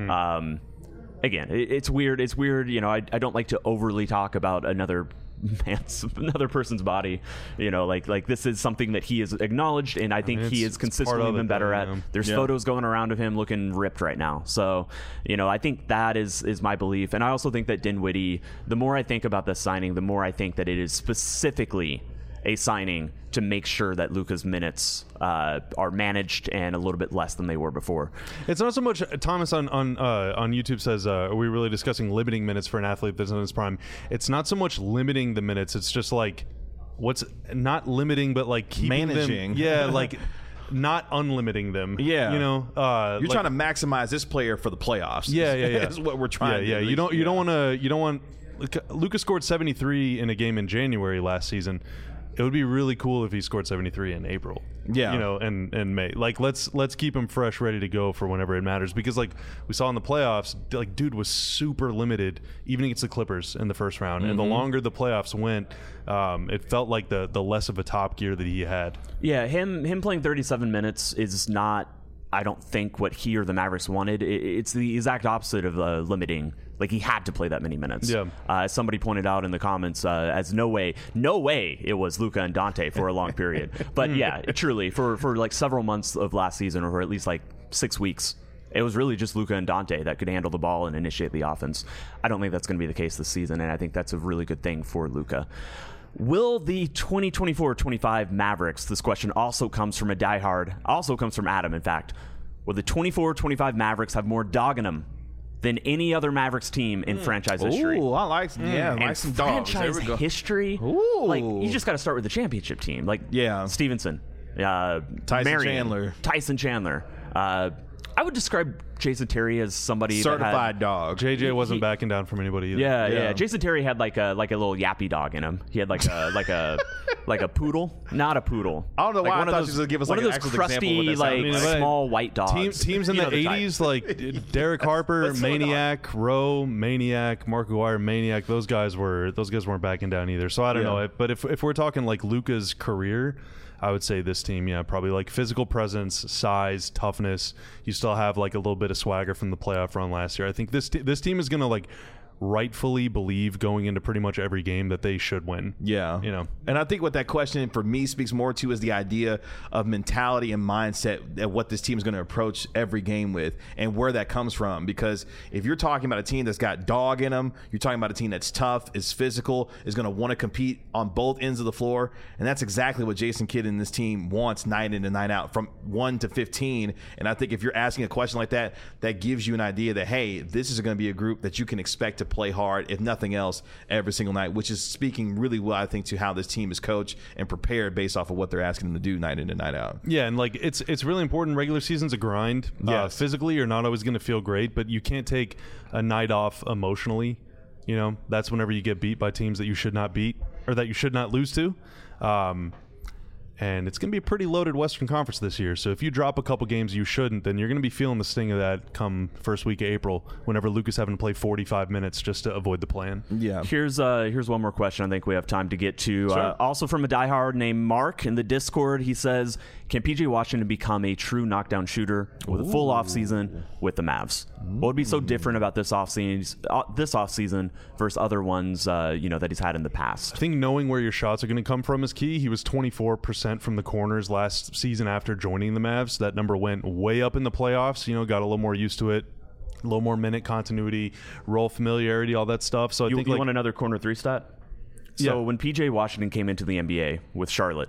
Again, it's weird. It's weird. I don't like to overly talk about another person's body. Like this is something that he has acknowledged, and I think he has consistently been better at. There's photos going around of him looking ripped right now. So, I think that is my belief. And I also think that Dinwiddie, the more I think about this signing, the more I think that it is specifically a signing to make sure that Luka's minutes are managed and a little bit less than they were before. It's not so much. Thomas on YouTube says, "Are we really discussing limiting minutes for an athlete that's in his prime?" It's not so much limiting the minutes. It's just like what's not limiting, but like keeping managing. them. Yeah, like. Not unlimiting them. Yeah, you know, you're trying to maximize this player for the playoffs. Yeah. That's what we're trying. Yeah, to do. You don't want. Luka scored 73 in a game in January last season. It would be really cool if he scored 73 in April. Yeah, you know, and May. Like let's keep him fresh, ready to go for whenever it matters. Because like we saw in the playoffs, like dude was super limited, even against the Clippers in the first round. And the longer the playoffs went, it felt like the less of a top gear that he had. Yeah, him playing 37 minutes is not, I don't think, what he or the Mavericks wanted. It's the exact opposite of limiting. Like, he had to play that many minutes. Yeah. As somebody pointed out in the comments, as no way it was Luka and Dante for a long period. But yeah, truly, for like several months of last season, or for at least like 6 weeks, it was really just Luka and Dante that could handle the ball and initiate the offense. I don't think that's going to be the case this season, and I think that's a really good thing for Luka. Will the 2024-25 Mavericks, this question also comes from a diehard, also comes from Adam, in fact, will the 24-25 Mavericks have more dog in them than any other Mavericks team in franchise history? Ooh, I like some dogs. Franchise history? Ooh. Like, you just got to start with the championship team. Like, Stevenson, Tyson Chandler. I would describe Jason Terry as somebody certified dog. JJ wasn't backing down from anybody either. Yeah. Jason Terry had like a little yappy dog in him. He had like a poodle, not a poodle. I don't know why one I thought those, you would give us one like of those crusty, small white dogs. Teams in the 80s, like Derek Harper, Maniac, Rowe, Maniac, Mark Aguirre, Maniac. Those guys weren't backing down either. So I don't know. But if we're talking like Luka's career, I would say this team, probably like physical presence, size, toughness. You still have like a little bit of swagger from the playoff run last year. I think this team is going to like rightfully believe going into pretty much every game that they should win. Yeah. And I think what that question for me speaks more to is the idea of mentality and mindset and what this team is going to approach every game with and where that comes from. Because if you're talking about a team that's got dog in them, you're talking about a team that's tough, is physical, is going to want to compete on both ends of the floor. And that's exactly what Jason Kidd and this team wants night in and night out, from 1 to 15. And I think if you're asking a question like that, that gives you an idea that, hey, this is going to be a group that you can expect to play hard, if nothing else, every single night, which is speaking really well, I think, to how this team is coached and prepared based off of what they're asking them to do night in and night out. Yeah, and like it's really important. Regular season's a grind. Yes. Physically, you're not always going to feel great, but you can't take a night off emotionally. That's whenever you get beat by teams that you should not beat or that you should not lose to. And it's going to be a pretty loaded Western Conference this year. So if you drop a couple games you shouldn't, then you're going to be feeling the sting of that come first week of April, whenever Luka's having to play 45 minutes just to avoid the plan. Yeah. Here's one more question I think we have time to get to. Sure. Also from a diehard named Mark in the Discord, he says, can PJ Washington become a true knockdown shooter with a full offseason with the Mavs? What would be so different about this offseason versus other ones that he's had in the past? I think knowing where your shots are going to come from is key. He was 24% from the corners last season after joining the Mavs. That number went way up in the playoffs. Got a little more used to it, a little more minute continuity, role familiarity, all that stuff. So I think you want another corner three stat? So when PJ Washington came into the NBA with Charlotte,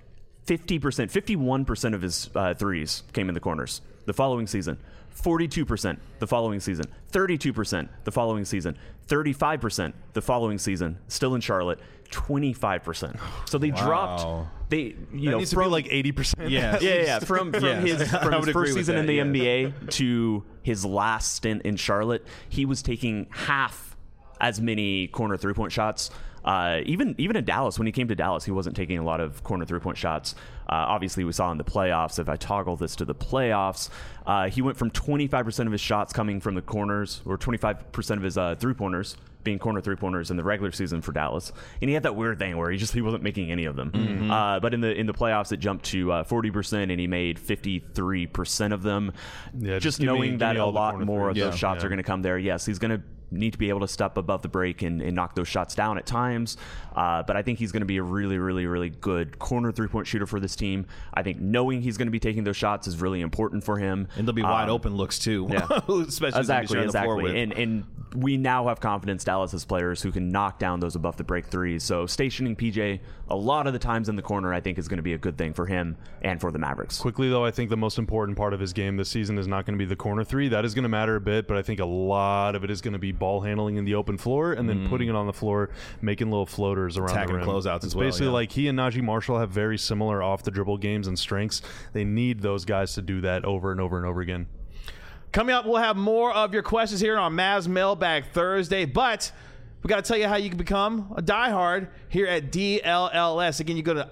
51% of his threes came in the corners. The following season, 42% the following season, 32% the following season, 35% the following season, still in Charlotte, 25%. So they dropped. They needs to be like 80%. Yeah. From his first season in the NBA to his last stint in Charlotte, he was taking half as many corner 3-point shots. Even in Dallas, when he came to Dallas, he wasn't taking a lot of corner 3-point shots. Obviously, we saw in the playoffs. If I toggle this to the playoffs, he went from 25% of his shots coming from the corners, or 25% of his 3-pointers being corner 3-pointers in the regular season for Dallas. And he had that weird thing where he wasn't making any of them. Mm-hmm. But in the playoffs, it jumped to 40%, and he made 53% of them. Yeah, just knowing that a lot more of those shots are going to come there. Yes, he's going to need to be able to step above the break and knock those shots down at times. But I think he's going to be a really, really, really good corner 3-point shooter for this team. I think knowing he's going to be taking those shots is really important for him. And there'll be wide open looks too. Yeah. Especially exactly. The floor with. And we now have confidence Dallas has players who can knock down those above the break threes. So stationing PJ a lot of the times in the corner, I think, is going to be a good thing for him and for the Mavericks. Quickly, though, I think the most important part of his game this season is not going to be the corner three. That is going to matter a bit, but I think a lot of it is going to be ball handling in the open floor and then putting it on the floor, making little floaters around attacking the rim. Closeouts as well. Basically, like he and Najee Marshall have very similar off the dribble games and strengths. They need those guys to do that over and over and over again. Coming up, we'll have more of your questions here on Mavs Mailbag Thursday, but we got to tell you how you can become a diehard here at DLLS. Again, you go to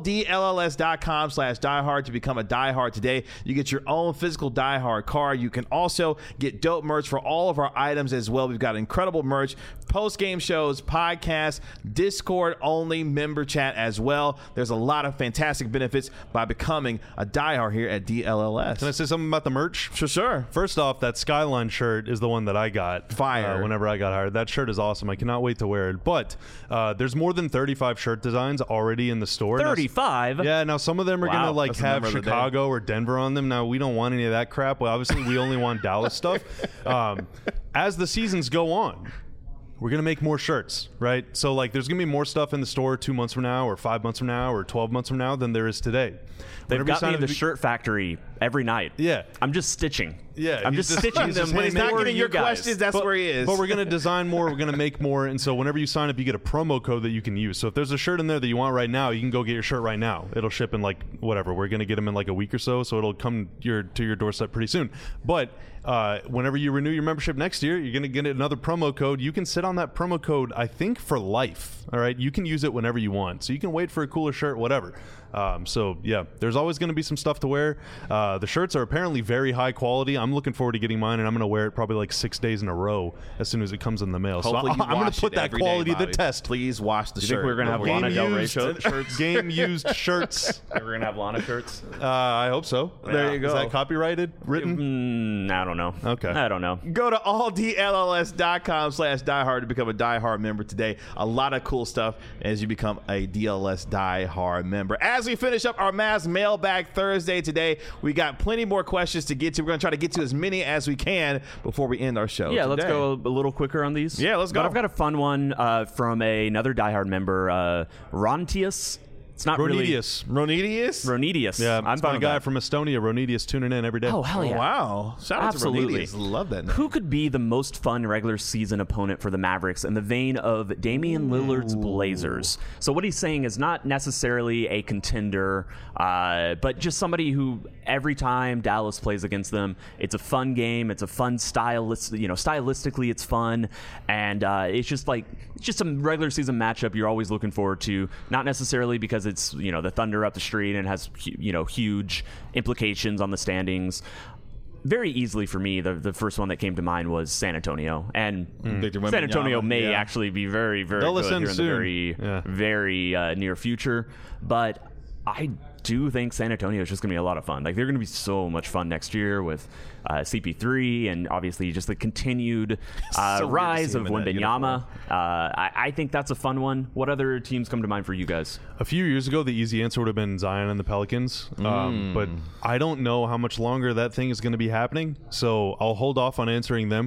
alldlls.com/diehard to become a diehard today. You get your own physical diehard card. You can also get dope merch for all of our items as well. We've got incredible merch, post-game shows, podcasts, Discord-only member chat as well. There's a lot of fantastic benefits by becoming a diehard here at DLLS. Can I say something about the merch? Sure. First off, that Skyline shirt is the one that I got. Fire. Whenever I got hired. That shirt is awesome. I cannot wait to wear it. But there's more than 35 shirt designs already in the store. 35? Yeah, now some of them are going to like That's the have number of the Chicago or Denver on them. Now, we don't want any of that crap. Well, obviously, we only want Dallas stuff. As the seasons go on, we're going to make more shirts, right? So, like, there's going to be more stuff in the store 2 months from now or 5 months from now or 12 months from now than there is today. They've got me in the shirt factory every night. Yeah. I'm just stitching. Yeah, I'm just stitching them. When he's not getting your guys. questions, that's where he is. But we're going to design more. We're going to make more. And so whenever you sign up, you get a promo code that you can use. So if there's a shirt in there that you want right now, you can go get your shirt right now. It'll ship in like whatever. We're going to get them in like a week or so. So it'll come to your doorstep pretty soon. But whenever you renew your membership next year, you're going to get another promo code. You can sit on that promo code, I think, for life. All right. You can use it whenever you want. So you can wait for a cooler shirt, whatever. So yeah, there's always going to be some stuff to wear. The shirts are apparently very high quality. I'm looking forward to getting mine, and I'm going to wear it probably like 6 days in a row as soon as it comes in the mail. Hopefully so I'm going to put that quality to the test. Please wash the shirt. You think we're going to have Lana Del Rey shirts? Game used shirts. We're going to have Lana shirts? I hope so. There you go. Is that copyrighted? Written? I don't know. Okay. I don't know. Go to alldlls.com/diehard to become a diehard member today. A lot of cool stuff as you become a DLS diehard member. As we finish up our Mavs Mailbag Thursday today, we got plenty more questions to get to. We're going to try to get to as many as we can before we end our show. Yeah, today. Let's go a little quicker on these. Yeah, let's go. But I've got a fun one from another diehard member, Rontius. It's not Ronetius. Ronetius? Yeah, I'm it's my guy from Estonia, Ronetius, tuning in every day. Oh, hell yeah. Oh, wow. Shout out Absolutely. to Ronetius. Love that name. Who could be the most fun regular season opponent for the Mavericks in the vein of Damian Lillard's Blazers? So what he's saying is not necessarily a contender, but just somebody who every time Dallas plays against them, it's a fun game. It's a fun stylistically it's fun, and it's just a regular season matchup you're always looking forward to. Not necessarily because it's the Thunder up the street and has huge implications on the standings. Very easily for me, the first one that came to mind was San Antonio, and San Antonio may actually be very, very good here in the very near future. But I do think San Antonio is just going to be a lot of fun. Like, they're going to be so much fun next year with CP3 and obviously just the continued rise of Wembanyama. I think that's a fun one. What other teams come to mind for you guys? A few years ago, the easy answer would have been Zion and the Pelicans. But I don't know how much longer that thing is going to be happening, so I'll hold off on answering them.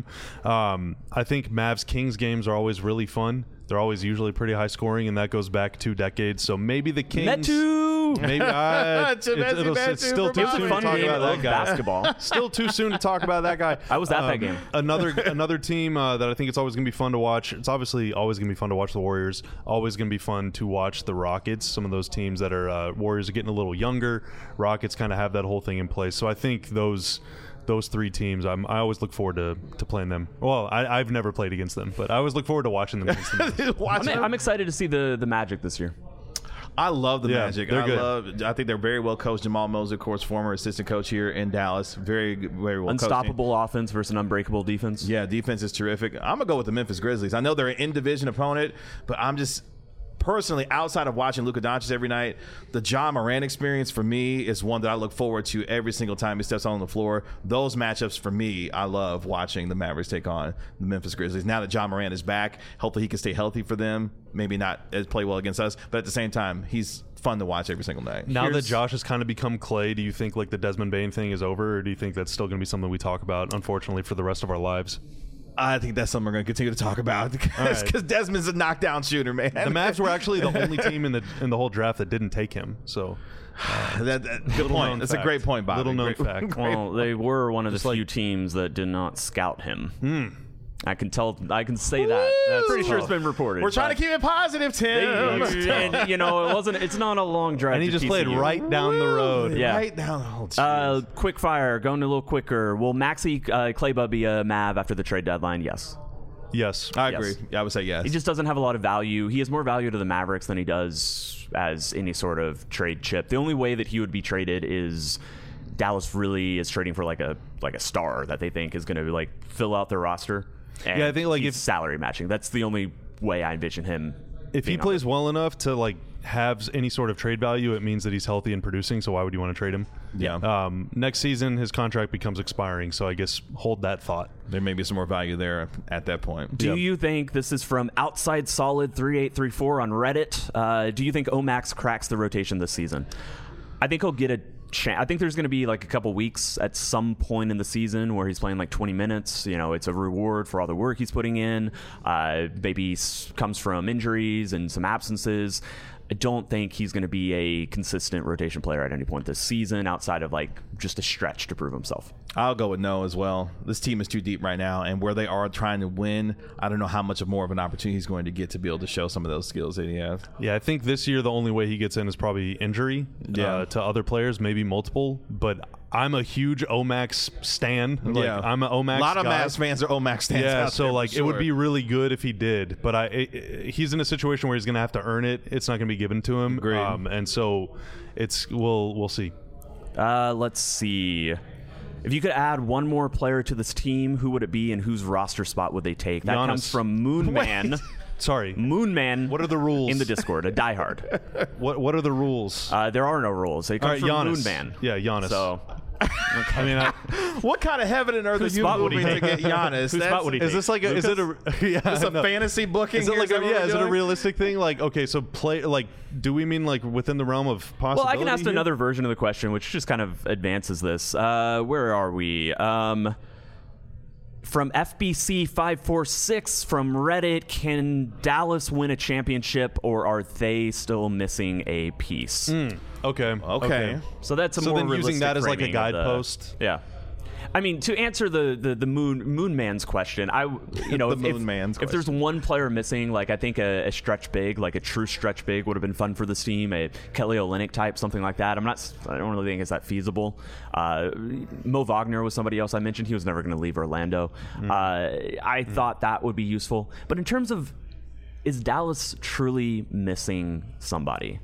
I think Mavs-Kings games are always really fun. They're always usually pretty high scoring, and that goes back 2 decades. So maybe the Kings. Maybe it's still too soon to talk about that guy. Basketball. Still too soon to talk about that guy. I was at that game. Another team that I think it's always going to be fun to watch. It's obviously always going to be fun to watch the Warriors. Always going to be fun to watch the Rockets. Some of those teams that are Warriors are getting a little younger. Rockets kind of have that whole thing in place. So I think those 3 teams, I always look forward to playing them. Well, I've never played against them, but I always look forward to watching them against them. I'm excited to see the Magic this year. I love the Magic. They're good. I think they're very well coached. Jamal Mosley, of course, former assistant coach here in Dallas. Very, very well Unstoppable coached. offense versus an unbreakable defense. Yeah, defense is terrific. I'm going to go with the Memphis Grizzlies. I know they're an in-division opponent, but I'm just personally, outside of watching Luka Doncic every night, the Ja Morant experience for me is one that I look forward to every single time he steps on the floor. Those matchups for me, I love watching the Mavericks take on the Memphis Grizzlies. Now that Ja Morant is back, hopefully he can stay healthy for them. Maybe not play well against us, but at the same time, he's fun to watch every single night. Now that Josh has kind of become Clay, do you think like the Desmond Bane thing is over, or do you think that's still going to be something we talk about, unfortunately, for the rest of our lives? I think that's something we're going to continue to talk about because Desmond's a knockdown shooter, man. The Mavs were actually the only team in the whole draft that didn't take him. So good point. That's a great point, Bobby. Little known fact. Well, they were one of the few teams that did not scout him. I can say that. That's pretty sure it's been reported. We're trying to keep it positive, Tim. And it's not a long drive. And he just played right down the road. Yeah. Right down the road. Quick fire, going a little quicker. Will Maxi Kleber be a Mav after the trade deadline? Yes. Yes. I agree. Yeah, I would say yes. He just doesn't have a lot of value. He has more value to the Mavericks than he does as any sort of trade chip. The only way that he would be traded is Dallas really is trading for like a star that they think is going to fill out their roster. And I think he's salary matching. That's the only way I envision him. If he plays well enough to have any sort of trade value, it means that he's healthy and producing. So why would you want to trade him? Yeah. Next season, his contract becomes expiring. So I guess hold that thought. There may be some more value there at that point. Do you think, this is from Outside Solid 3834 on Reddit, do you think Omax cracks the rotation this season? I think he'll get a chance. I think there's going to be a couple weeks at some point in the season where he's playing 20 minutes. It's a reward for all the work he's putting in. Maybe comes from injuries and some absences. I don't think he's going to be a consistent rotation player at any point this season outside of just a stretch to prove himself. I'll go with no as well. This team is too deep right now, and where they are trying to win, I don't know how much more of an opportunity he's going to get to be able to show some of those skills that he has. Yeah, I think this year the only way he gets in is probably injury to other players, maybe multiple. But I'm a huge Omax stan. I'm an Omax. A lot of guy. Mavs fans are Omax stans. Yeah, out so there, it would be really good if he did. But he's in a situation where he's going to have to earn it. It's not going to be given to him. Agreed. And so we'll see. Let's see. If you could add one more player to this team, who would it be and whose roster spot would they take? That comes from Moonman. Sorry. Moonman. What are the rules? In the Discord, a diehard. What are the rules? There are no rules. They come from Giannis. Moonman. Yeah, Giannis. So, I mean, what kind of heaven and earth are you moving to get Giannis? Whose spot would he take? Is this is it a fantasy booking? Is it is it a realistic thing? Okay, so do we mean within the realm of possibility? Well, I can ask here? another version of the question, which just kind of advances this. Where are we? From FBC546 from Reddit, can Dallas win a championship, or are they still missing a piece? Okay. So that's a so more then using that as a framing of guidepost. Yeah. I mean, to answer the Moonman's question, if there's one player missing, I think a stretch big, a true stretch big would have been fun for this team, a Kelly Olynyk type, something like that. I don't really think it's that feasible. Mo Wagner was somebody else I mentioned. He was never going to leave Orlando. I thought that would be useful. But in terms of, is Dallas truly missing somebody?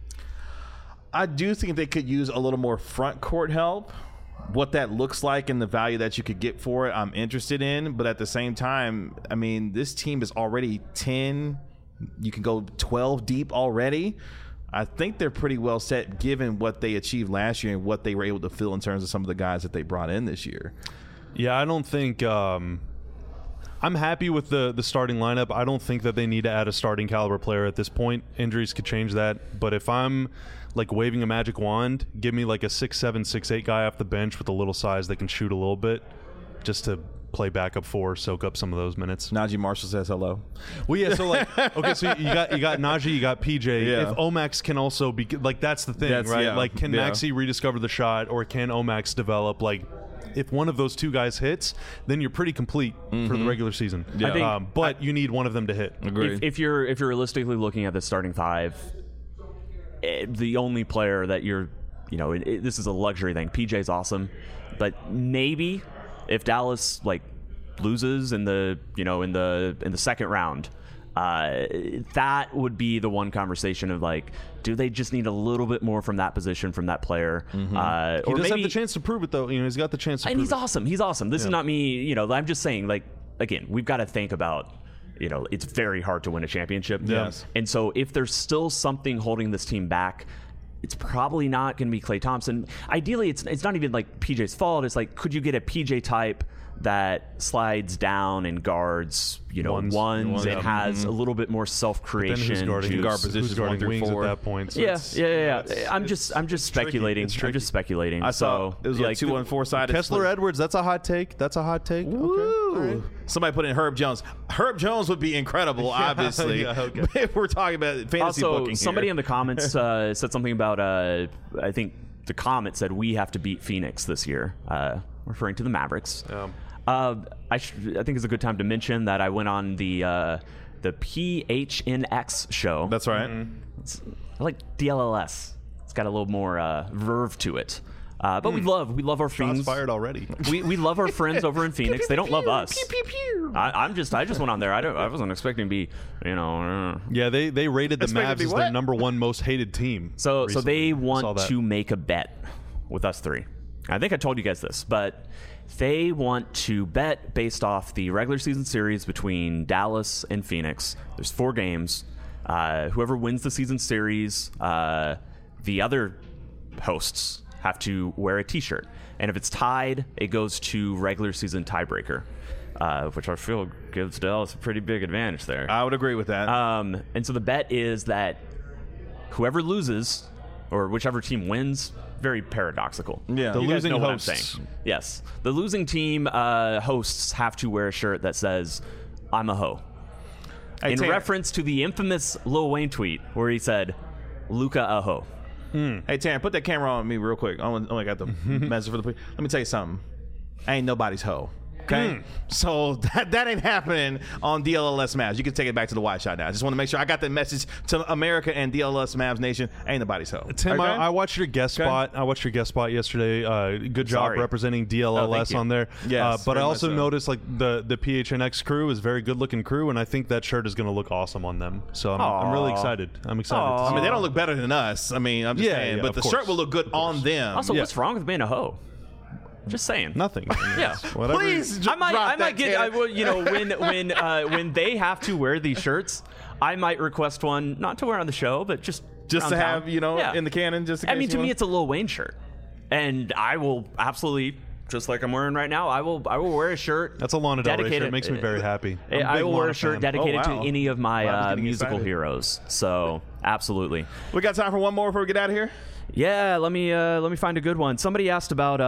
I do think they could use a little more front court help. What that looks like and the value that you could get for it, I'm interested in. But at the same time, I mean, this team is already 10. You can go 12 deep already. I think they're pretty well set given what they achieved last year and what they were able to fill in terms of some of the guys that they brought in this year. Yeah, I don't think I'm happy with the starting lineup. I don't think that they need to add a starting caliber player at this point. Injuries could change that. But if I'm waving a magic wand, give me a 6'7", 6'8" guy off the bench with a little size that can shoot a little bit, just to play backup 4, soak up some of those minutes. Najee Marshall says hello. Well, yeah. So okay, so you got Najee, you got PJ. Yeah. If Omax can also be that's the thing, right? Yeah. Can Maxey rediscover the shot, or can Omax develop? If one of those two guys hits, then you're pretty complete for the regular season. Yeah. But you need one of them to hit. Agreed. If you're realistically looking at the starting five, the only player that you're, this is a luxury thing. PJ's awesome, but maybe if Dallas loses in the in the second round, that would be the one conversation of do they just need a little bit more from that position from that player? He does have the chance to prove it though. He's got the chance to. And prove he's awesome. He's awesome. This is not me. I'm just saying. Again, we've got to think about. It's very hard to win a championship. Yes. And so if there's still something holding this team back, it's probably not going to be Klay Thompson. Ideally, it's not even PJ's fault. It's could you get a PJ type that slides down and guards, ones. It has a little bit more self-creation. Who's guarding positions 1 through wings 4 at that point? So yeah. I'm just speculating. I'm just speculating. I saw it was like 2-4 sided. Kessler Edwards. That's a hot take. Woo. Okay. Right. Somebody put in Herb Jones. Herb Jones would be incredible, obviously. If we're talking about fantasy booking here. Somebody in the comments said something about. I think the comment said we have to beat Phoenix this year, referring to the Mavericks. I think it's a good time to mention that I went on the PHNX show. That's right. I like DLLS. It's got a little more verve to it. But we love our friends. Shots fired already. We love our friends over in Phoenix. They don't love us. I just went on there. I wasn't expecting to be, Yeah, they rated the Mavs as their number 1 most hated team. So recently. they want to make a bet with us 3. I think I told you guys this, but they want to bet based off the regular season series between Dallas and Phoenix. There's 4 games. Whoever wins the season series, the other hosts have to wear a T-shirt. And if it's tied, it goes to regular season tiebreaker, which I feel gives Dallas a pretty big advantage there. I would agree with that. And so the bet is that whoever loses, or whichever team wins, very paradoxical. Yeah, the losing know hosts. What I'm saying. Yes, the losing team hosts have to wear a shirt that says "I'm a hoe," in reference to the infamous Lil Wayne tweet where he said, "Luka a hoe." Hey, Taryn, put that camera on me real quick. I only got the message for the. Let me tell you something. I ain't nobody's hoe. Okay, so that ain't happening on DLLS Mavs. You can take it back to the wide shot now. I just want to make sure I got that message to America and DLLS Mavs Nation. Ain't nobody's hoe. Tim, okay? I watched your guest spot. I watched your guest spot yesterday. Good job representing DLLS on there. Yes, but I also noticed like the PHNX crew is a very good looking crew, and I think that shirt is going to look awesome on them. So I'm really excited. I'm excited. I mean, they don't look better than us. I mean, I'm just saying, but the shirt will look good on them. Also, what's wrong with being a hoe? Just saying. Nothing. Yeah. Whatever. Please, I might get. When they have to wear these shirts, I might request one, not to wear on the show, but just to have town. in the canon. Just in case to me, it's a Lil Wayne shirt, and I will absolutely, just like I'm wearing right now, I will wear a shirt. That's a Lana Del Rey shirt. It makes me very happy. I will wear a shirt dedicated to any of my musical excited. heroes. So absolutely. We got time for one more before we get out of here. Yeah, let me find a good one. Somebody asked about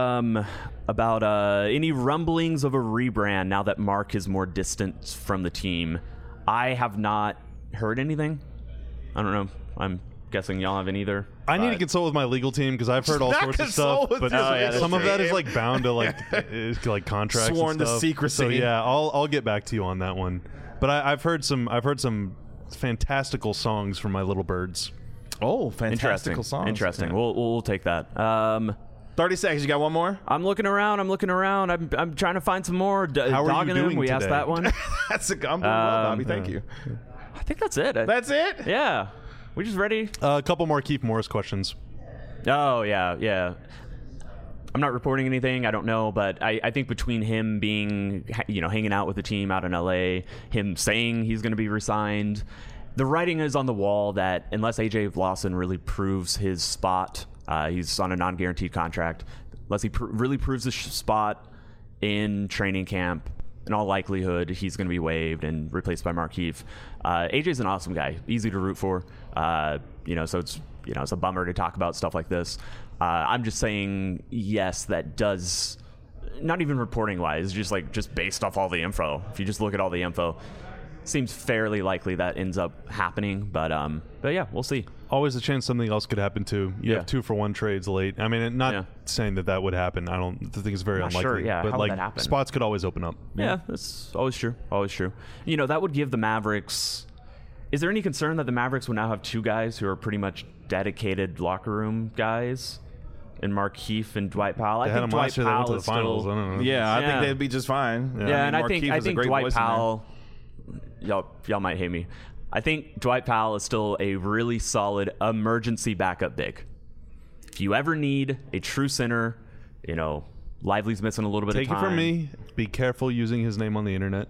any rumblings of a rebrand now that Mark is more distant from the team. I have not heard anything. I don't know. I'm guessing y'all haven't either. I need to consult with my legal team because I've heard all sorts of stuff, but some of that is like bound to like contracts, sworn and stuff. to secrecy. So yeah, I'll get back to you on that one. But I've heard some fantastical songs from my little birds. Oh, fantastical songs. Interesting. Yeah. We'll take that. 30 seconds. You got one more? I'm looking around. I'm trying to find some more. How are you doing We today? asked that one. I'm doing well, Bobby. Thank you. I think that's it. That's it? Yeah. We just ready? A couple more Keith Morris questions. Oh, yeah. I'm not reporting anything. I don't know, but I think between him being, hanging out with the team out in LA, him saying he's going to be re-signed, the writing is on the wall that unless AJ Lawson really proves his spot, he's on a non-guaranteed contract, unless he really proves his spot in training camp, in all likelihood, he's going to be waived and replaced by Markieff. AJ's an awesome guy, easy to root for. So it's a bummer to talk about stuff like this. I'm just saying, yes, that does, not even reporting wise, just based off all the info. If you just look at all the info, seems fairly likely that ends up happening. But yeah, we'll see. Always a chance something else could happen too. You have 2-for-1 trades late. I mean, not saying that would happen. I think it's very unlikely. Sure, yeah. But how would that happen? Spots could always open up. Yeah, that's always true. Always true. That would give the Mavericks. Is there any concern that the Mavericks will now have 2 guys who are pretty much dedicated locker room guys, and Markieff and Dwight Powell? I think Dwight Powell is finals. I don't know. Yeah, I think they'd be just fine. Yeah, and I think Dwight Powell. Y'all might hate me. I think Dwight Powell is still a really solid emergency backup big. If you ever need a true center, Lively's missing a little bit of time. Take it from me. Be careful using his name on the internet.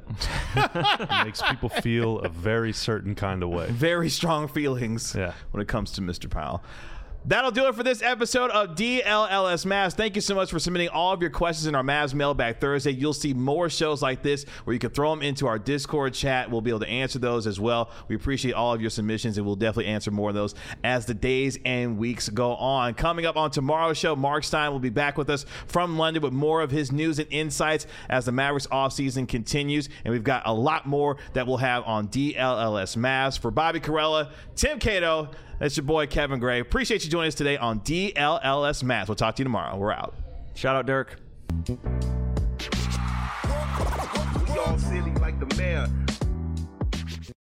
It makes people feel a very certain kind of way. Very strong feelings when it comes to Mr. Powell. That'll do it for this episode of DLLS Mavs. Thank you so much for submitting all of your questions in our Mavs Mailbag Thursday. You'll see more shows like this where you can throw them into our Discord chat. We'll be able to answer those as well. We appreciate all of your submissions, and we'll definitely answer more of those as the days and weeks go on. Coming up on tomorrow's show, Mark Stein will be back with us from London with more of his news and insights as the Mavericks offseason continues. And we've got a lot more that we'll have on DLLS Mavs. For Bobby Karalla, Tim Cato, that's your boy Kevin Gray. Appreciate you joining us today on DLLS Mavs. We'll talk to you tomorrow. We're out. Shout out, Dirk. We all silly like the mayor.